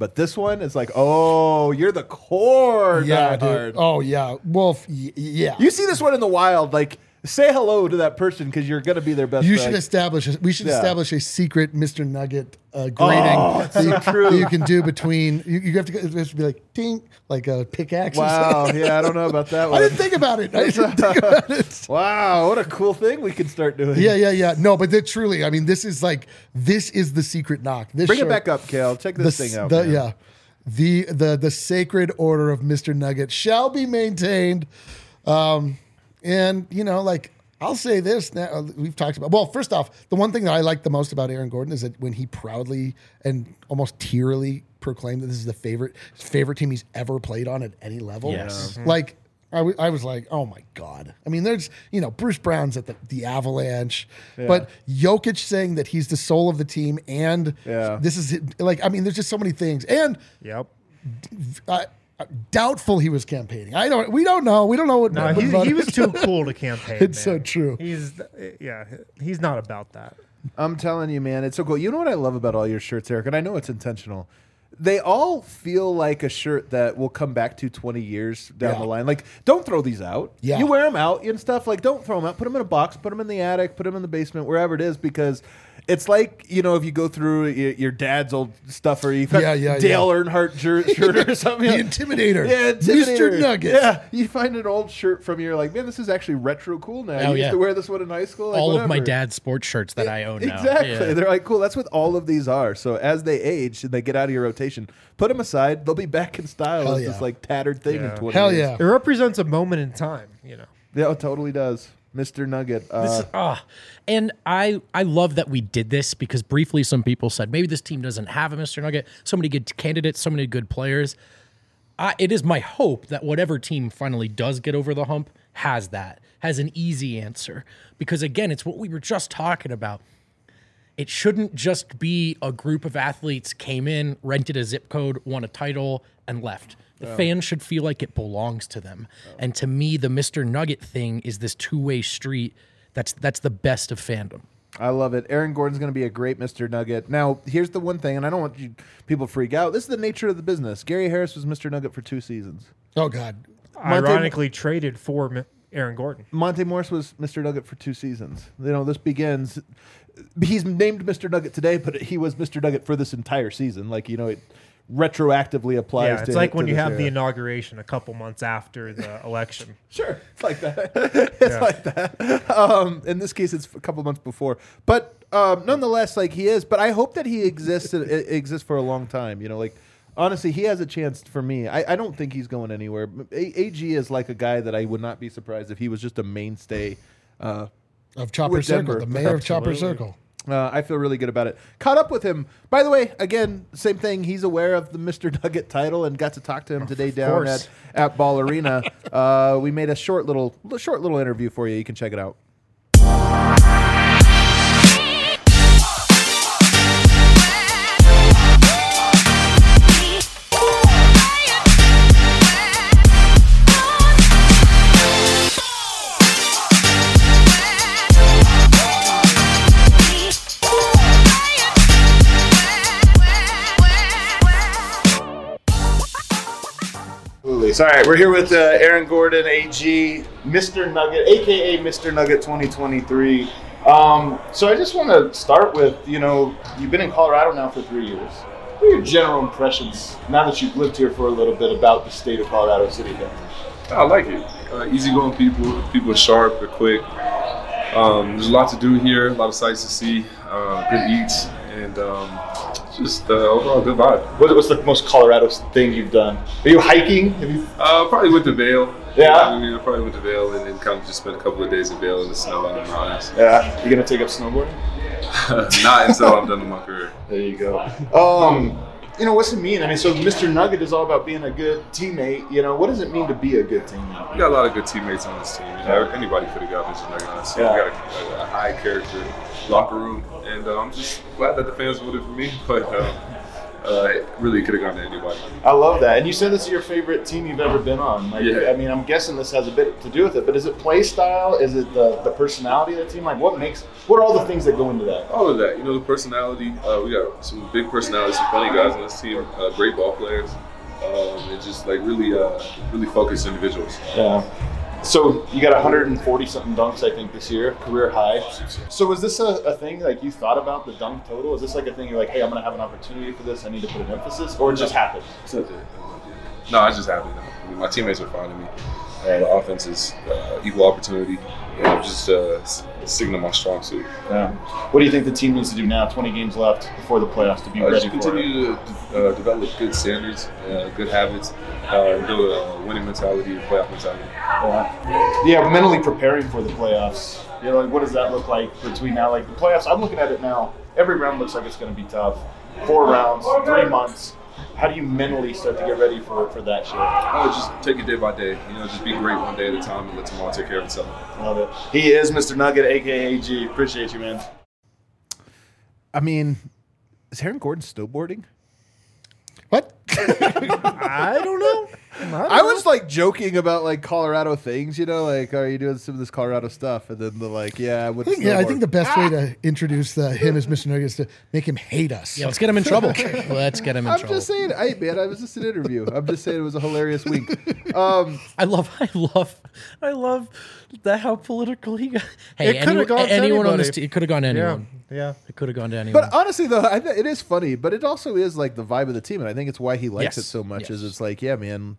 But this one is like, oh, you're the core Yeah, diehard. dude. Oh, yeah. Wolf, y- yeah. You see this one in the wild, like, say hello to that person because you're going to be their best You friend. should establish. A, we should Yeah. establish a secret Mister Nugget uh, grading Oh, that, you, so true. that you can do between. You, you have to. It has to be like ding, like a pickaxe. or Wow, something. yeah, I don't know about that I one. didn't think about it. I didn't think about it. Wow, what a cool thing we can start doing. Yeah, yeah, yeah. No, but they truly, I mean, this is like this is the secret knock. This Bring it shirt- back up, Kale. Check this the, thing out. the- man. yeah, the the the sacred order of Mister Nugget shall be maintained. Um, and you know, like I'll say this now, uh, we've talked about. Well, first off, the one thing that I like the most about Aaron Gordon is that when he proudly and almost tearily proclaimed that this is the favorite his favorite team he's ever played on at any level. Yes. Like. I, w- I was like, oh my God. I mean, there's, you know, Bruce Brown's at the, the Avalanche, but Jokic saying that he's the soul of the team and Yeah. this is it- like, I mean, there's just so many things. And Yep. uh, doubtful he was campaigning. I don't, we don't know. We don't know what. No, what he, about he it. was too cool to campaign. It's man. so true. He's yeah, he's not about that. I'm telling you, man, it's so cool. You know what I love about all your shirts, Eric, and I know it's intentional. They all feel like a shirt that we'll come back to twenty years down Yeah. the line. Like, don't throw these out. Yeah. You wear them out and stuff. Like, don't throw them out. Put them in a box. Put them in the attic. Put them in the basement, wherever it is, because it's like, you know, if you go through your, your dad's old stuff, or you've got Yeah, yeah, Dale Earnhardt jer- shirt or something. The Intimidator. Yeah, Mister Intimidator. Nugget. Yeah, you find an old shirt from your like, man, this is actually retro cool now. Oh, you used yeah. to wear this one in high school. Like, All of my whatever. dad's sports shirts that I own now. Exactly. Yeah. They're like, cool. That's what all of these are. So as they age and they get out of your rotation, put them aside. They'll be back in style Hell as yeah. this like tattered thing Yeah. in twenty Hell years. yeah. It represents a moment in time, you know. Yeah, it totally does. Mister Nugget. Uh, This is- ah. And I, I love that we did this because briefly some people said maybe this team doesn't have a Mister Nugget. So many good candidates, so many good players. I, it is my hope that whatever team finally does get over the hump has that, has an easy answer. Because again, it's what we were just talking about. It shouldn't just be a group of athletes came in, rented a zip code, won a title, and left. The fans should feel like it belongs to them. And to me, the Mister Nugget thing is this two-way street. That's that's the best of fandom. I love it. Aaron Gordon's going to be a great Mister Nugget. Now, here's the one thing, and I don't want you people to freak out. This is the nature of the business. Gary Harris was Mister Nugget for two seasons. Oh God. Ironically traded for Mi- Aaron Gordon. Monte Morris was Mister Nugget for two seasons. You know, this begins. He's named Mister Nugget today, but he was Mister Nugget for this entire season. Like, you know, it retroactively applies Yeah, to it's like to when you this have the era. inauguration a couple months after the election. Sure, it's like that. it's Yeah. like that. Um, in this case, it's a couple months before, but um, nonetheless, like he is. But I hope that he exists uh, exists for a long time. You know, like honestly, he has a chance for me. I, I don't think he's going anywhere. A- AG is like a guy that I would not be surprised if he was just a mainstay. Uh, Of Chopper With Circle, Denver. the mayor of Chopper Absolutely. Circle. Uh, I feel really good about it. Caught up with him. By the way, again, same thing. He's aware of the Mister Nugget title and got to talk to him today down course. at, at Ball Arena. Uh, we made a short little short little interview for you. You can check it out. Absolutely. So, all right, we're here with uh, Aaron Gordon, A G, Mister Nugget, A K A Mister Nugget twenty twenty-three. Um, so I just want to start with, you know, you've been in Colorado now for three years. What are your general impressions, now that you've lived here for a little bit, about the state of Colorado City? I like it. Uh, easygoing people, people are sharp, they're quick. Um, there's a lot to do here, a lot of sights to see, uh, good eats, and um, just uh, overall good vibe. What, what's the most Colorado thing you've done? Are you hiking? Have you? Uh, probably went to Vail. Yeah? I mean, I probably went to Vail and then kind of just spent a couple of days in Vail in the snow and the mountains. Yeah. You gonna take up snowboarding? Not until I'm done with my career. There you go. Um, you know, what's it mean? I mean, so Mister Nugget is all about being a good teammate. You know, what does it mean to be a good teammate? We got a lot of good teammates on this team. You know, anybody could have got Mister Nugget on this team. Yeah. We got a, a high character locker room, and uh, I'm just glad that the fans voted for me. But uh, uh, really could have gone to anybody. I love that. And you said this is your favorite team you've ever been on. Like, Yeah. I mean, I'm guessing this has a bit to do with it, but is it play style? Is it the, the personality of the team? Like, what makes, what are all the things that go into that? All of that, you know, the personality. Uh, we got some big personalities, some funny guys on this team, uh, great ball players, um, and just like really, uh, really focused individuals. Yeah. So you got one hundred forty something dunks, I think, this year, career high. So was this a, a thing like you thought about the dunk total? Is this like a thing you're like, hey, I'm gonna have an opportunity for this, I need to put an emphasis, or it just happened? It's not that- No, I just happy. I mean, my teammates are finding me. Uh, the offense is uh, equal opportunity, and I'm just uh, s- sticking to my strong suit. Yeah. What do you think the team needs to do now? twenty games left before the playoffs to be Uh, ready just for it. continue to uh, develop good standards, uh, good habits, uh, and build a winning mentality, and playoff mentality. Yeah. yeah, mentally preparing for the playoffs. You know, like what does that look like between now? Like the playoffs, I'm looking at it now. Every round looks like it's going to be tough. Four rounds, three months. How do you mentally start to get ready for for that shit? I would just take it day by day. You know, just be great one day at a time and let tomorrow take care of itself. Love it. He is Mister Nugget, aka A G. Appreciate you, man. I mean, is Aaron Gordon snowboarding? What? I don't know. I was like joking about like Colorado things, you know, like are you doing some of this Colorado stuff? And then the like, yeah, I would. I think, yeah, I think the best way to introduce uh, him as Mister Nugget is to make him hate us. Yeah, let's get him in trouble. Let's get him in I'm trouble. just saying, hey man, I was just an interview. I'm just saying it was a hilarious week. Um, I love, I love, I love that how political he got. Hey, It coulda any- gone to anyone on this anybody. team, it could have gone to Yeah, anyone. yeah. It could have gone to anyone. but honestly, though, I th- it is funny, but it also is like the vibe of the team, and I think it's why he likes Yes, it so much. yes. Is it's like, yeah, man,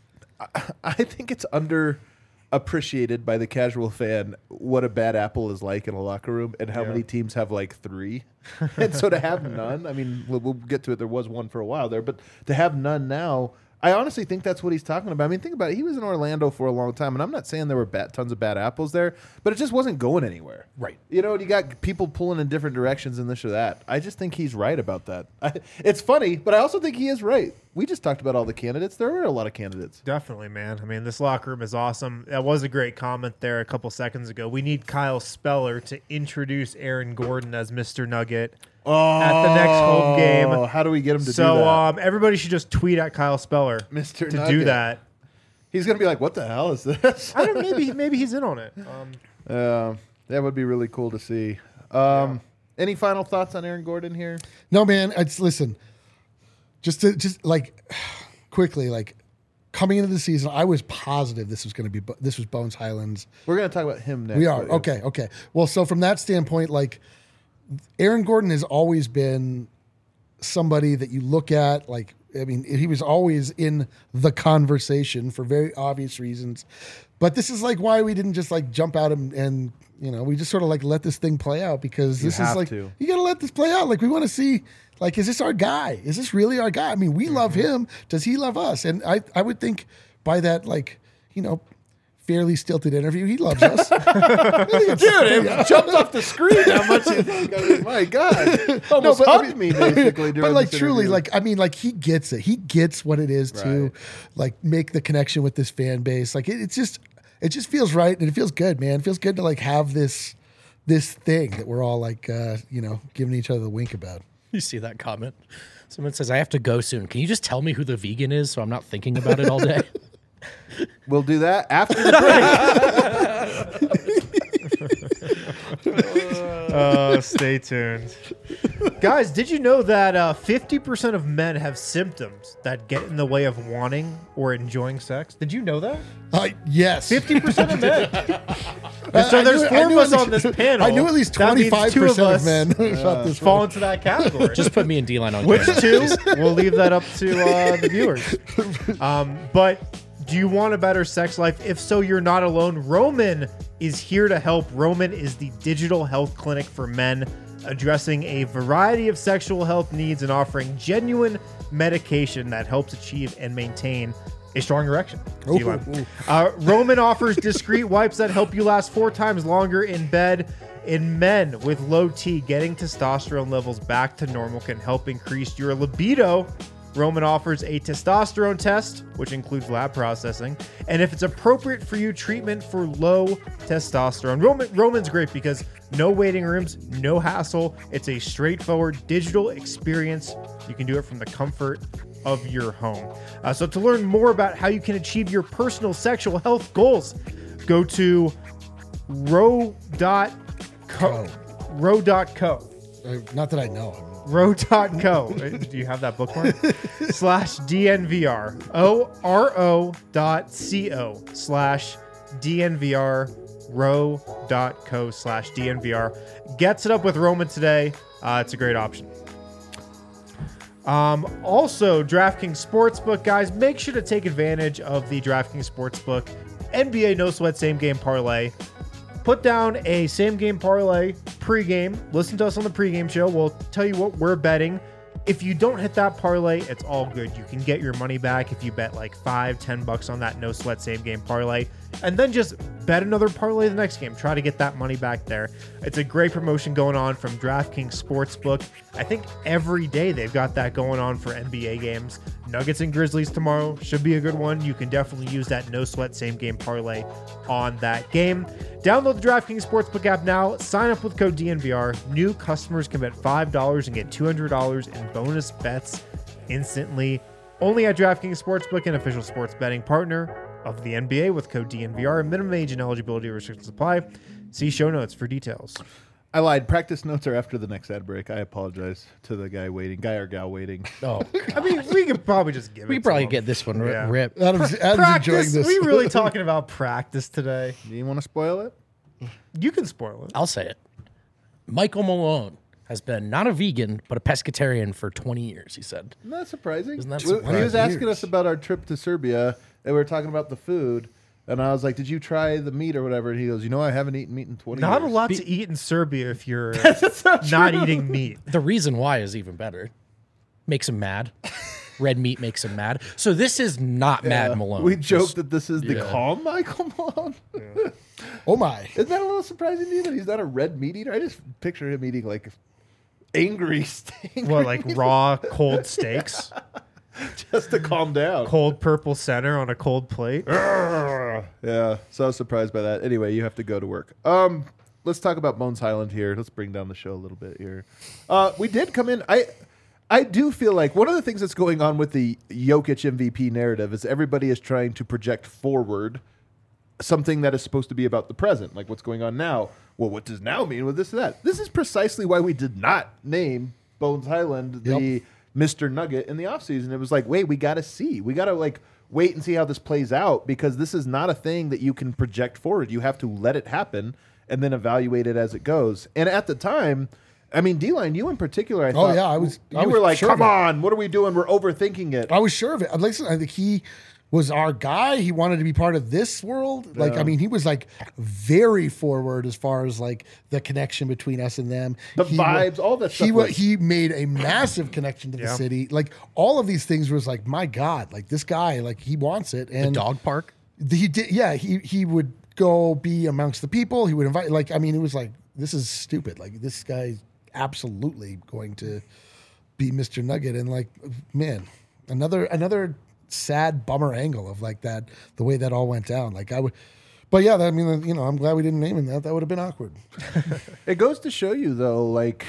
I, I think it's under appreciated by the casual fan what a bad apple is like in a locker room, and how Yeah. many teams have like three, and so to have none. I mean, we'll, we'll get to it. There was one for a while there, but to have none now. I honestly think that's what he's talking about. I mean, think about it. He was in Orlando for a long time, and I'm not saying there were bad, tons of bad apples there, but it just wasn't going anywhere. Right. You know, and you got people pulling in different directions and this or that. I just think he's right about that. I, it's funny, but I also think he is right. We just talked about all the candidates. There were a lot of candidates. Definitely, man. I mean, this locker room is awesome. That was a great comment there a couple seconds ago. We need Kyle Speller to introduce Aaron Gordon as Mister Nugget Oh, at the next home game. How do we get him to So do that? um, everybody should just tweet at Kyle Speller Mister to Nugget. do that. He's going to be like, what the hell is this? I don't. Maybe maybe he's in on it. Um, Uh, that would be really cool to see. Um, Any final thoughts on Aaron Gordon here? No, man. It's listen. Just to just like quickly, like coming into the season, I was positive this was going to be Bo- this was Bones Highlands. We're going to talk about him next. We are but- okay, okay. Well, so from that standpoint, like Aaron Gordon has always been somebody that you look at. Like, I mean, he was always in the conversation for very obvious reasons. But this is like why we didn't just like jump out and, and you know, we just sort of like let this thing play out because You this is have like to. you got to let this play out. Like we want to see, like, is this our guy? Is this really our guy? I mean, we love him. Does he love us? And I, I would think by that, like, you know, fairly stilted interview, he loves us. Dude, it jumped off the screen. How much you think? I mean, my God, almost but, I hugged mean- me basically. During but like this truly, interview. like I mean, like he gets it. He gets what it is to Right. like make the connection with this fan base. Like it, it's just, it just feels right and it feels good, man. It feels good to like have this, this thing that we're all like, uh, you know, giving each other the wink about. You see that comment? Someone says, I have to go soon. Can you just tell me who the vegan is so I'm not thinking about it all day? we'll do that after the break. uh, stay tuned, guys. Did you know that uh, fifty percent of men have symptoms that get in the way of wanting or enjoying sex? Did you know that? Uh, yes. Fifty percent of men. Uh, so I there's knew- I four of knew us at on least- this panel. I knew at least That means twenty-five two percent of us men felt this fall way. into that category. Just put me and D-Line on Which camera. two? We'll leave that up to uh, the viewers. Um, but do you want a better sex life? If so, you're not alone. Roman is here to help. Roman is the digital health clinic for men, addressing a variety of sexual health needs and offering genuine medication that helps achieve and maintain a strong erection. Ooh, D-Line. ooh. Uh, Roman offers discreet wipes that help you last four times longer in bed. In men with low T, getting testosterone levels back to normal can help increase your libido Roman offers a testosterone test, which includes lab processing, and if it's appropriate for you, treatment for low testosterone. Roman, Roman's great because no waiting rooms, no hassle. It's a straightforward digital experience. You can do it from the comfort of your home. Uh, so to learn more about how you can achieve your personal sexual health goals, go to row dot co. row dot co. Uh, Not that I know. row dot co. Do you have that bookmark? slash D N V R. O R O dot C O slash D N V R. row dot co slash D N V R. Gets it up with Roman today. Uh, it's a great option. Um, also, DraftKings Sportsbook, guys, make sure to take advantage of the DraftKings Sportsbook N B A No Sweat Same Game Parlay. Put down a same game parlay pregame. Listen to us on the pregame show. We'll tell you what we're betting. If you don't hit that parlay, it's all good. You can get your money back if you bet like five, ten bucks on that no sweat same game parlay, and then just bet another parlay the next game. Try to get that money back there. It's a great promotion going on from DraftKings Sportsbook. I think every day they've got that going on for N B A games. Nuggets and Grizzlies tomorrow should be a good one. You can definitely use that no sweat same game parlay on that game. Download the DraftKings Sportsbook app now. Sign up with code D N V R. New customers can bet five dollars and get two hundred dollars in bonus bets instantly. Only at DraftKings Sportsbook, an official sports betting partner of the N B A with code D N V R. Minimum age and eligibility restrictions apply. See show notes for details. I lied. Practice notes are after the next ad break. I apologize to the guy waiting, guy or gal waiting. Oh, I mean, we could probably just give it we to probably him. get this one ri- Yeah. ripped. Adam's, Adam's enjoying Practice. this. We really talking about practice today. Do you want to spoil it? You can spoil it. I'll say it. Michael Malone has been not a vegan, but a pescatarian for twenty years, he said. Not surprising. Isn't that Well, He was surprising? asking us about our trip to Serbia, and we were talking about the food. And I was like, "Did you try the meat or whatever?" And he goes, "You know, I haven't eaten meat in twenty Not years." a lot to eat in Serbia if you're not eating meat. The reason why is even better. Makes him mad. Red meat makes him mad. So this is not Mad Malone. We Just- joked that this is the yeah. calm Michael Malone. Oh my! Isn't that a little surprising to you that he's not a red meat eater? I just picture him eating like angry steak. What, like raw, cold steaks? just to calm down. Cold purple center on a cold plate? Yeah, so I was surprised by that. Anyway, you have to go to work. Um, let's talk about Bones Highland here. Let's bring down the show a little bit here. Uh, we did come in. I I do feel like one of the things that's going on with the Jokic M V P narrative is everybody is trying to project forward something that is supposed to be about the present, like what's going on now. Well, what does now mean with this and that? This is precisely why we did not name Bones Highland the Yep. Mister Nugget in the offseason. It was like, wait, we got to see. We got to like wait and see how this plays out because this is not a thing that you can project forward. You have to let it happen and then evaluate it as it goes. And at the time, I mean, D-Line, you in particular, I Oh, thought, yeah, I was- you I was were like, sure of come it. on, what are we doing? We're overthinking it. I was sure of it. Listen, I think he was our guy. He wanted to be part of this world. Like, I mean, he was like very forward as far as like the connection between us and them. The He wa- vibes, all that He stuff wa- was- he made a massive connection to the Yeah. city. Like all of these things was like, my God, like this guy, like he wants it. The And dog park. he did. Yeah, he he would go be amongst the people. He would invite. Like, I mean, it was like this is stupid. Like this guy's absolutely going to be Mister Nugget. And like, man, another another sad bummer angle of like that, the way that all went down. Like I would, but yeah, I mean, you know, I'm glad we didn't name him that. That would have been awkward. It goes to show you, though, like,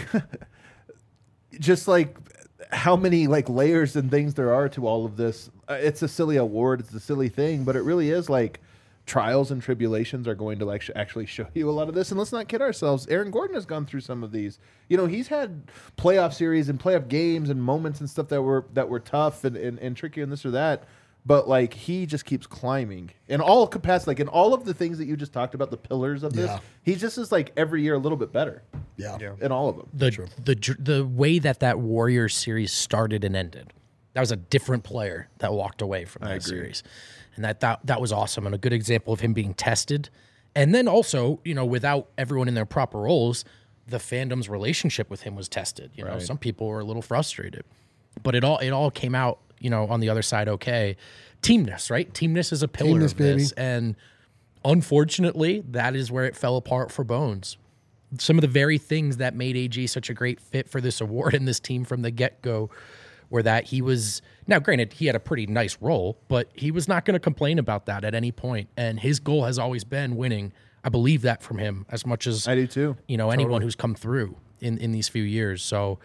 just like how many like layers and things there are to all of this. Uh, it's a silly award, it's a silly thing, but it really is like trials and tribulations are going to like sh- actually show you a lot of this. And let's not kid ourselves. Aaron Gordon has gone through some of these. You know, he's had playoff series and playoff games and moments and stuff that were that were tough and, and, and tricky and this or that. But like he just keeps climbing in all capacity, like in all of the things that you just talked about, the pillars of this. Yeah. He just is like every year a little bit better Yeah. Yeah. in all of them. The the dr- the way that that Warriors series started and ended, that was a different player that walked away from that series, and that, that that was awesome and a good example of him being tested. And then also, you know, without everyone in their proper roles, the fandom's relationship with him was tested. You know, Right. some people were a little frustrated, but it all it all came out, you know, on the other side okay. Teamness, right? Teamness is a pillar Teamness, of this, baby. and unfortunately, that is where it fell apart for Bones. Some of the very things that made A G such a great fit for this award and this team from the get-go where that he was now granted he had a pretty nice role, but he was not going to complain about that at any point. And his goal has always been winning. I believe that from him as much as I do too. You know, anyone who's come through in, in these few years. So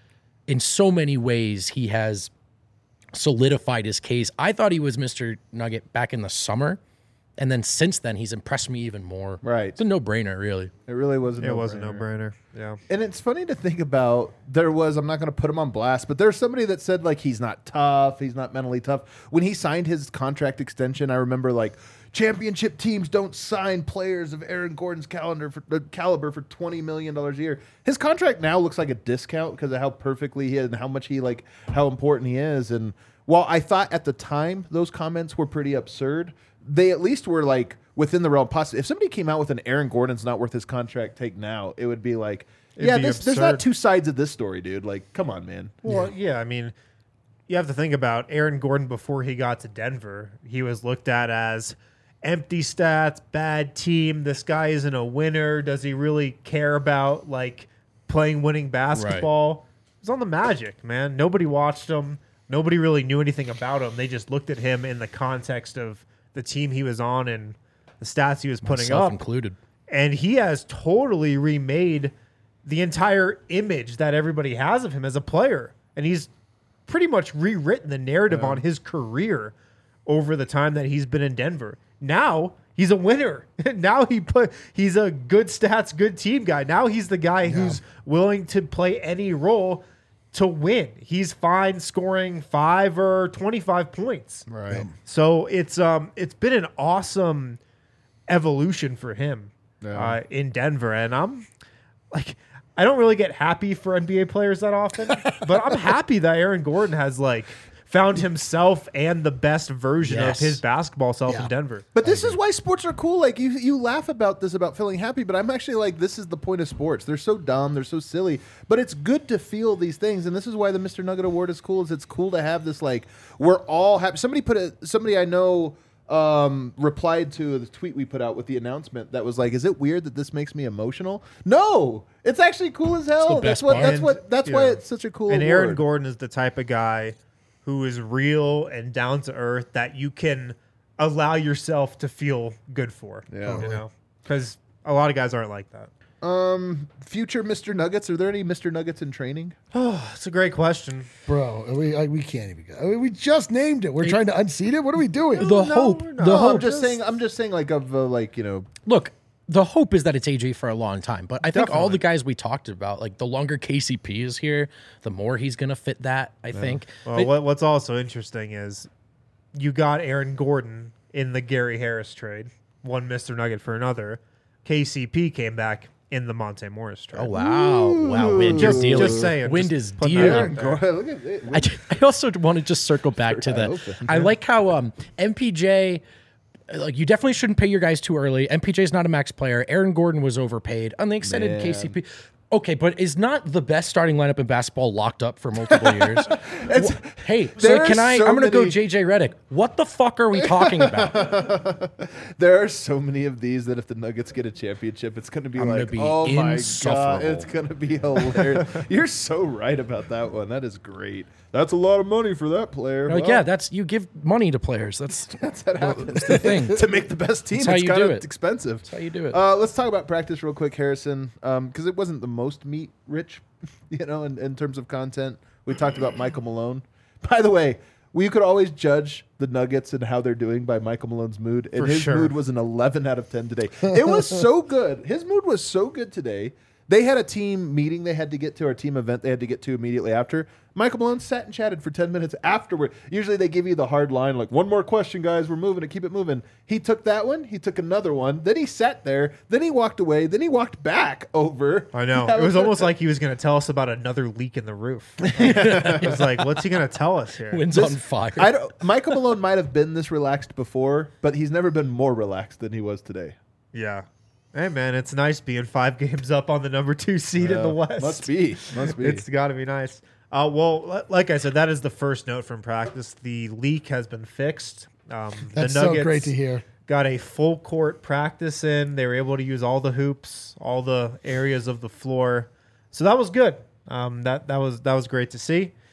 in so many ways, he has solidified his case. I thought he was Mister Nugget back in the summer. And then since then, he's impressed me even more. Right. It's a no-brainer, really. It really was a It no-brainer. was a no-brainer. Yeah. And it's funny to think about. There was, I'm not going to put him on blast, but there's somebody that said, like, he's not tough. He's not mentally tough. When he signed his contract extension, I remember, like, championship teams don't sign players of Aaron Gordon's calendar for, uh, caliber for twenty million dollars a year. His contract now looks like a discount because of how perfectly he is and how much he, like, how important he is. And while I thought at the time those comments were pretty absurd, they at least were like within the realm possible. If somebody came out with an Aaron Gordon's not worth his contract take now, it would be like, It'd yeah, be this, there's not absurd. two sides of this story, dude. Like, come on, man. Well, yeah. I mean, you have to think about Aaron Gordon before he got to Denver. He was looked at as empty stats, bad team. This guy isn't a winner. Does he really care about like playing winning basketball? It was on the Magic, man. Nobody watched him. Nobody really knew anything about him. They just looked at him in the context of the team he was on and the stats he was putting Myself up. included. And he has totally remade the entire image that everybody has of him as a player. And he's pretty much rewritten the narrative on his career over the time that he's been in Denver. Now he's a winner. Now he put he's a good stats, good team guy. Now he's the guy who's willing to play any role to win. He's fine scoring five or twenty-five points. Right. So it's um it's been an awesome evolution for him uh, in Denver, and I'm like I don't really get happy for N B A players that often, but I'm happy that Aaron Gordon has like found himself and the best version Yes. of his basketball self Yeah. in Denver. But this is why sports are cool. Like you, you laugh about this about feeling happy, but I'm actually like, this is the point of sports. They're so dumb, they're so silly, but it's good to feel these things, and this is why the Mister Nugget Award is cool. Is it's cool to have this like we're all happy. Somebody put a somebody I know um, replied to the tweet we put out with the announcement that was like, "Is it weird that this makes me emotional?" No, it's actually cool as hell. the That's best what. part. That's And, what. That's you why know, it's such a cool. And award. Aaron Gordon is the type of guy who is real and down to earth that you can allow yourself to feel good for. Yeah. You know, because a lot of guys aren't like that. Um, future Mister Nuggets. Are there any Mister Nuggets in training? That's a great question. Bro, we I, we can't even go. I mean, we just named it. We're trying to unseat it. What are we doing? The No, hope, we're the not. No, hope. I'm just saying. I'm just saying, like of uh, like you know. Look, the hope is that it's A J for a long time, but I think all Definitely. the guys we talked about, like the longer K C P is here, the more he's gonna fit that. I think. Well, But- what, what's also interesting is you got Aaron Gordon in the Gary Harris trade, one Mister Nugget for another. K C P came back in the Monte Morris trade. Oh wow, wow! Wind Just- is dealing. just saying, Wind just is putting that dealing. out there. Look at it. I, ju- I also want to just circle back to I the. hope so. I like how um, M P J, like you definitely shouldn't pay your guys too early. M P J is not a max player. Aaron Gordon was overpaid on the extended Man. K C P. Okay, but is not the best starting lineup in basketball locked up for multiple years? Wha- hey, so there can are I? so I'm gonna go many- J J Redick. What the fuck are we talking about? There are so many of these that if the Nuggets get a championship, it's going to be I'm gonna like, be oh my god, insufferable. it's going to be hilarious. You're so right about that one. That is great. That's a lot of money for that player. Like, Well, yeah, that's you give money to players. That's that's how it happens. that's the thing. To make the best team, That's how it's you kind do of it. expensive. That's how you do it. Uh, let's talk about practice real quick, Harrison, because it wasn't the most meat rich, you know, in, in terms of content. We talked about Michael Malone. By the way, we could always judge the Nuggets and how they're doing by Michael Malone's mood, and For his sure. mood was an eleven out of ten today. It was so good. His mood was so good today. They had a team meeting they had to get to, or a team event they had to get to immediately after. Michael Malone sat and chatted for ten minutes afterward. Usually they give you the hard line, like, one more question, guys, we're moving it, keep it moving. He took that one, he took another one, then he sat there, then he walked away, then he walked back over. I know. That It was almost like he was going to tell us about another leak in the roof. It was like, what's he going to tell us here? Wind's This- on fire. I don't, Michael Malone might have been this relaxed before, but he's never been more relaxed than he was today. Yeah. Hey, man, it's nice being five games up on the number two seed in the Uh, West. Must be. Must be. It's got to be nice. Uh, well, li- like I said, that is the first note from practice. The leak has been fixed. Um, That's the so Nuggets great to hear. got a full court practice in. They were able to use all the hoops, all the areas of the floor. So that was good. Um, that that was that was great to see.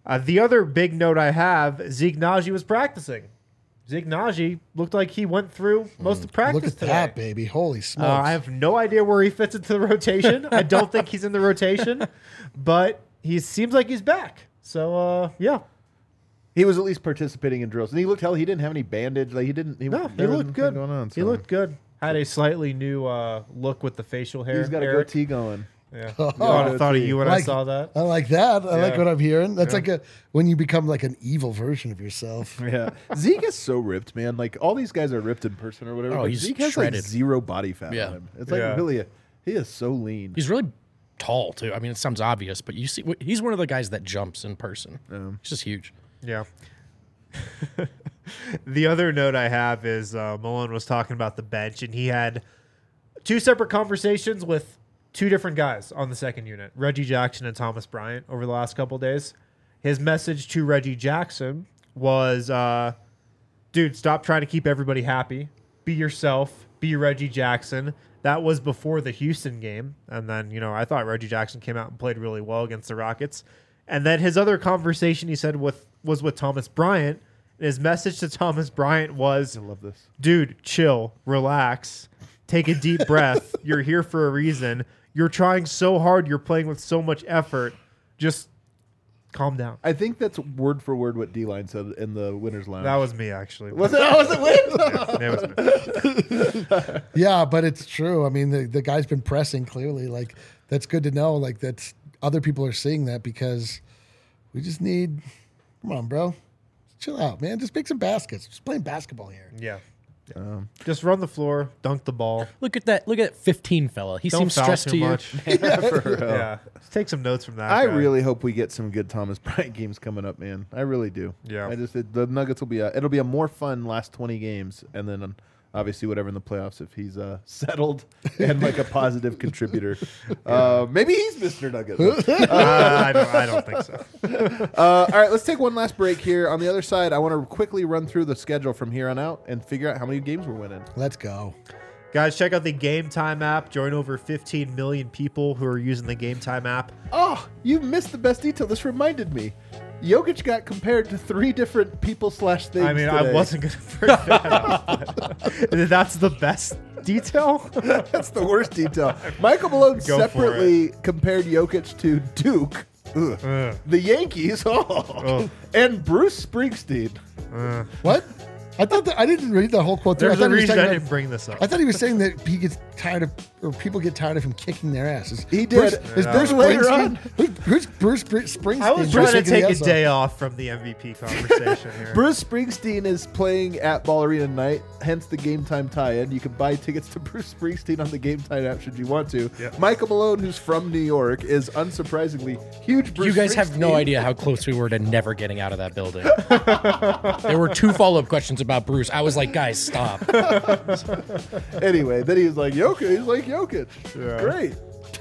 Uh, the other big note I have, Zeke Naji was practicing. Zeke Naji looked like he went through most of practice Look at today. that, baby. Holy smokes. Uh, I have no idea where he fits into the rotation. I don't think he's in the rotation, but he seems like he's back. So, uh, yeah. He was at least participating in drills, and he looked hell. He didn't have any bandage. Like he didn't. He, No, he there was looked nothing good. Going on, He so. looked good. Had a slightly new uh, look with the facial hair. He's got a Eric. goatee going. Yeah. Oh, thought, I thought of you when I like- saw that. I like that. I like Yeah. what I'm hearing. That's Yeah. like a when you become like an evil version of yourself. Yeah, Zeke is so ripped, man. Like all these guys are ripped in person or whatever. Oh, but he's Zeke has shredded. like zero body fat Yeah. on him. It's like Yeah. really, a, he is so lean. He's really tall too. I mean, it sounds obvious, but you see, he's one of the guys that jumps in person. Um, He's just huge. Yeah. The other note I have is uh, Malone was talking about the bench, and he had two separate conversations with two different guys on the second unit, Reggie Jackson and Thomas Bryant, over the last couple of days. His message to Reggie Jackson was, uh, dude, stop trying to keep everybody happy. Be yourself. Be Reggie Jackson. That was before the Houston game. And then, you know, I thought Reggie Jackson came out and played really well against the Rockets. And then his other conversation he said with was with Thomas Bryant. And his message to Thomas Bryant was, I love this. dude, chill, relax, take a deep breath. You're here for a reason. You're trying so hard. You're playing with so much effort. Just calm down. I think that's word for word what D-Line said in the winners lounge. That was me, actually. was it? Was it Win? Yeah, it was me. Yeah, but it's true. I mean, the, the guy's been pressing clearly. Like, that's good to know. Like, that's other people are seeing that because we just need, come on, bro. Chill out, man. Just make some baskets. Just playing basketball here. Yeah. Um, Just run the floor, dunk the ball. Look at that! Look at that fifteen fella. He Don't seems foul stressed too to you. much. yeah, for real. Yeah. Just take some notes from that. I guy. really hope we get some good Thomas Bryant games coming up, man. I really do. Yeah. I just it, the Nuggets will be a, it'll be a more fun last twenty games, and then um, obviously whatever in the playoffs if he's uh, settled and like a positive contributor. Uh, maybe he's Mister Nugget. Uh, I, don't, I don't think so. Uh, all right, let's take one last break here. On the other side, I want to quickly run through the schedule from here on out and figure out how many games we're winning. Let's go. Guys, check out the Game Time app. Join over fifteen million people who are using the Game Time app. Oh, you missed the best detail. This reminded me. Jokic got compared to three different people slash things. I mean, today. I wasn't going to bring that up. but That's the best detail? That's the worst detail. Michael Malone Go for separately compared Jokic to Duke, ugh, Ugh. the Yankees, oh, Oh. and Bruce Springsteen. Uh, What? I thought that I didn't read the whole quote. through. I there's a thought he was reason talking I about- didn't bring this up. I thought he was saying that he gets tired of, or people get tired of him kicking their asses. He Bruce, did. Is Yeah. Bruce Later Springsteen? on. Who's, who's Bruce Spr- Springsteen? I was Bruce trying to kicking take the a ass off? day off from the M V P conversation here. Bruce Springsteen is playing at Ball Arena tonight, hence the Game Time tie-in. You can buy tickets to Bruce Springsteen on the Game Time app should you want to. Yep. Michael Malone, who's from New York, is unsurprisingly huge Bruce You guys have no Springsteen. idea how close we were to never getting out of that building. There were two follow-up questions about Bruce. I was like, guys, stop. Anyway, then he was like, Jokic. He's like, Jokic. Yeah. Great.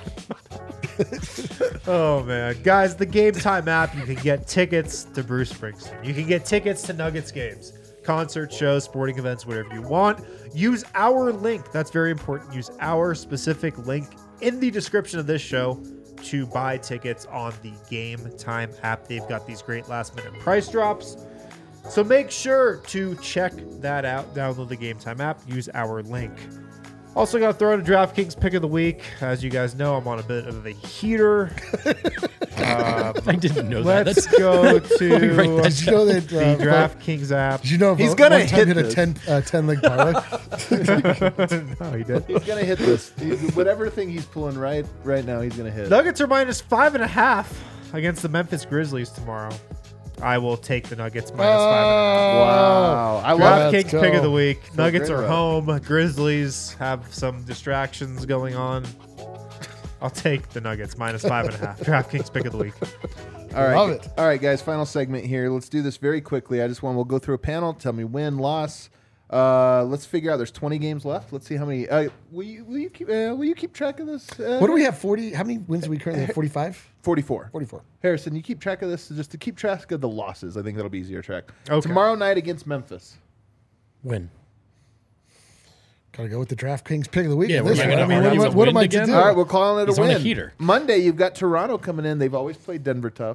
Oh man, guys, the Game Time app, you can get tickets to Bruce Springsteen. You can get tickets to Nuggets games, concerts, shows, sporting events, whatever you want. Use our link. That's very important. Use our specific link in the description of this show to buy tickets on the Game Time app. They've got these great last minute price drops. So make sure to check that out. Download the Game Time app. Use our link. Also got to throw out a DraftKings pick of the week. As you guys know, I'm on a bit of a heater. um, I didn't know that. let's That's, go me to write that Did you know that? the Uh, DraftKings app. Did you know He's Vo- gonna one time hit hit a this. ten uh, ten leg parlay? No, he did. He's gonna hit this. He- whatever thing he's pulling right right now, he's gonna hit. Nuggets are minus five and a half against the Memphis Grizzlies tomorrow. I will take the Nuggets minus five and a half. Wow, I love Let's DraftKings go. pick of the week. Feel Nuggets great are about home. Grizzlies have some distractions going on. I'll take the Nuggets minus five and a half. DraftKings pick of the week. All right, Love it. all right, guys. Final segment here. Let's do this very quickly. I just want we'll go through a panel. Tell me win, loss. Uh, let's figure out. There's twenty games left. Let's see how many. Uh, will you will you keep uh, will you keep track of this? Uh, What do we have? Forty? How many wins do we currently have? Forty-five. Forty-four. Forty-four. Harrison, you keep track of this just to keep track of the losses. I think that'll be easier to track. Okay. Tomorrow night against Memphis. win. Gotta go with the DraftKings pick of the week. Yeah, on we're this not one. gonna I mean, argue what, with what am wind I to again? do? All right, we're calling it He's a on win. a heater. Monday, you've got Toronto coming in. They've always played Denver tough.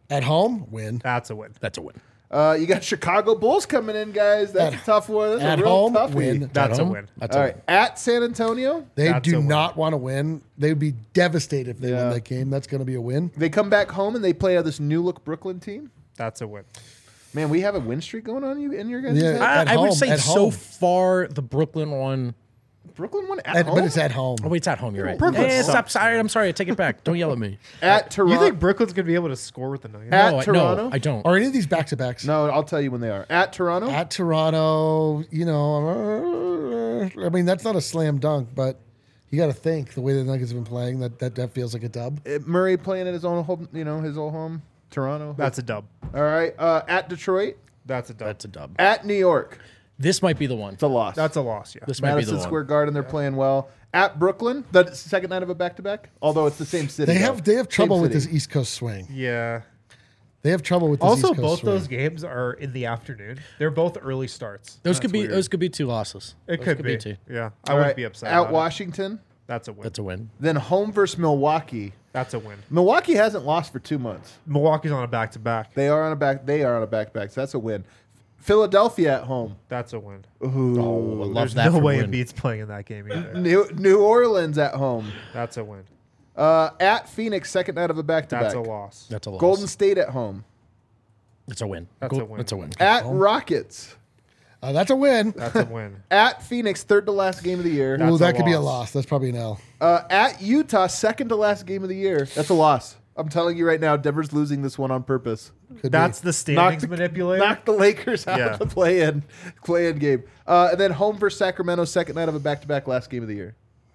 At home, win. That's a win. That's a win. Uh, you got Chicago Bulls coming in, guys. That's At- a tough one. That's at a real home, toughie. win. That's At a home? win. That's All a right, win. at San Antonio, They That's a do win. not want to win. They would be devastated if they Yeah. win that game. That's going to be a win. they come back home and they play this new look Brooklyn team. That's a win. Man, we have a win streak going on you in your guys' Yeah. head? At I, I would home, say at so home. far the Brooklyn one. Brooklyn won at, At- home. but it's at home. Oh wait, it's at home. You're right. Brooklyn Eh, sucks. stop. Sorry, I'm sorry. I take it back. Don't yell at me. at Toronto. You think Brooklyn's gonna be able to score with the Nuggets? At no, I- Toronto? no, I don't. Are any of these back to backs? No, I'll tell you when they are. At Toronto, At Toronto, you know, uh, I mean that's not a slam dunk, but you got to think the way the Nuggets have been playing that, that that feels like a dub. Uh, Murray playing at his own home, you know, his old home. Toronto. That's a dub. all right. Uh, at Detroit, That's a dub. That's a dub. at New York, This might be the one. it's a loss. That's a loss. Yeah. This might be Madison the Square one. Garden. They're playing well. At Brooklyn, the second night of a back-to-back. Although it's the same city. They though. have they have Same trouble with city. this East Coast swing. Yeah. They have trouble with this Also, East Coast both swing. those games are in the afternoon. They're both early starts. Those That's could be. weird. Those could be two losses. It Those could, be. two. Yeah. I All wouldn't right, be upset. At about it. Washington, That's a win. That's a win. then home versus Milwaukee. That's a win. Milwaukee hasn't lost for two months. Milwaukee's on a back to back. They are on a back. They are on a back-to-back. So that's a win. Philadelphia at home. That's a win. Ooh. Oh, I love There's that. no for way win. Embiid's playing in that game either. New New Orleans at home. That's a win. Uh, at Phoenix, second night of a back-to-back. That's a loss. That's a loss. Golden State at home. That's a win. That's Go- a win. That's a win. At Rockets. Uh, that's a win. That's a win. At Phoenix, third to last game of the year. That's Ooh, a that could be a loss. loss. That's probably an L. Uh, at Utah, second to last game of the year. That's a loss. I'm telling you right now, Denver's losing this one on purpose. Could That's be. the standings the, manipulator. Knock the Lakers out Yeah. of the play-in, play-in game. Uh, and then home versus Sacramento, second night of a back-to-back, last game of the year.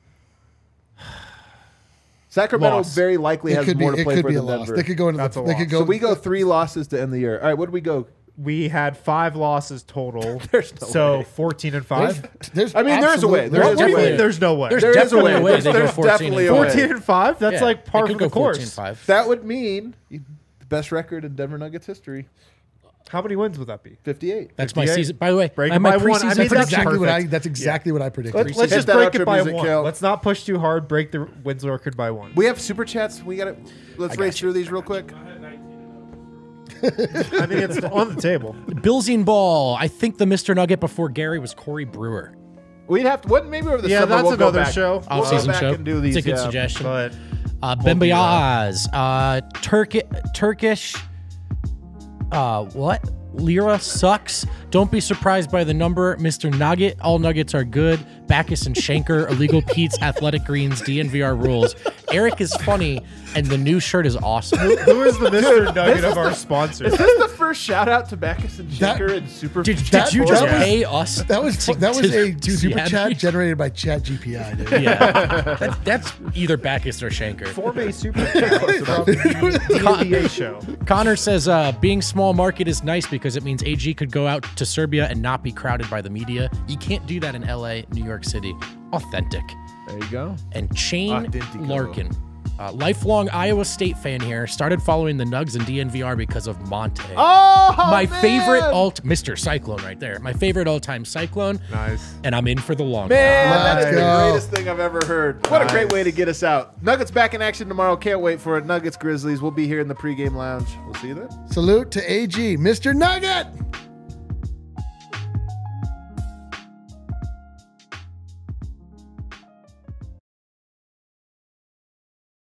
Sacramento Loss. very likely It has could be. more to It play could for be a than loss. Denver. They could go into That's the. a They could loss. go. So we go three losses to end the year. All right, what do we go? We had five losses total. There's no so way. fourteen and There's, five. there's I mean, there's a way. absolute- There What, is what a do you way. mean? There's no way. There's There is a definitely way. a way There's- they go there's fourteen definitely and a five. way. fourteen and five. That's Yeah, like par they for could the go fourteen course. five. That would mean the best record in Denver Nuggets history, How many wins would that be? fifty-eight. That's my fifty-eight. season. By the way, Break my, it my by one. I preseason mean, That's that's prediction- exactly what I. perfect. That's exactly what I predicted. Let's, let's Hit just that break outro it by music, one. Kel. Let's not push too hard. Break the wins record by one. We have super chats. We got to let's race through these real quick. I mean, it's on the table. Billsing Ball. I think the Mister Nugget before Gary was Corey Brewer. We'd have to. What maybe over the Yeah, summer that's we'll go another back. show. We'll go Off-season back show. and do these. It's a good yeah. suggestion. But Uh, We'll do Bembayaz. Uh, Turki- Turkish. Uh, what? Lira sucks. Don't be surprised by the number. Mister Nugget. All nuggets are good. Bacchus and Shanker. Illegal Pete's. Athletic Greens. D N V R rules. Eric is funny, and the new shirt is awesome. who is the Mister Nugget of our sponsors? Is this the first shout out to Bacchus and That- Shaker and Super? Did, That- did you that just was- pay us? That was to- that was to a do the super ad chat read? generated by Chat G P I. Dude. Yeah, that, that's either Bacchus or Shanker. Form a super chat about the N B A show. Connor says, uh, being small market is nice because it means A G could go out to Serbia and not be crowded by the media. You can't do that in L A, New York City. Authentic. There you go. And Shane Authentico. Larkin. Uh, lifelong Iowa State fan here. Started following the Nugs and D N V R because of Monte. Oh, My man! favorite alt, Mister Cyclone right there. My favorite all-time Cyclone. Nice. And I'm in for the long Man, haul. that's Let's the go. greatest thing I've ever heard. What a great way to get us out. Nuggets back in action tomorrow. Can't wait for it. Nuggets Grizzlies. We'll be here in the pregame lounge. We'll see you then. Salute to A G, Mister Nugget.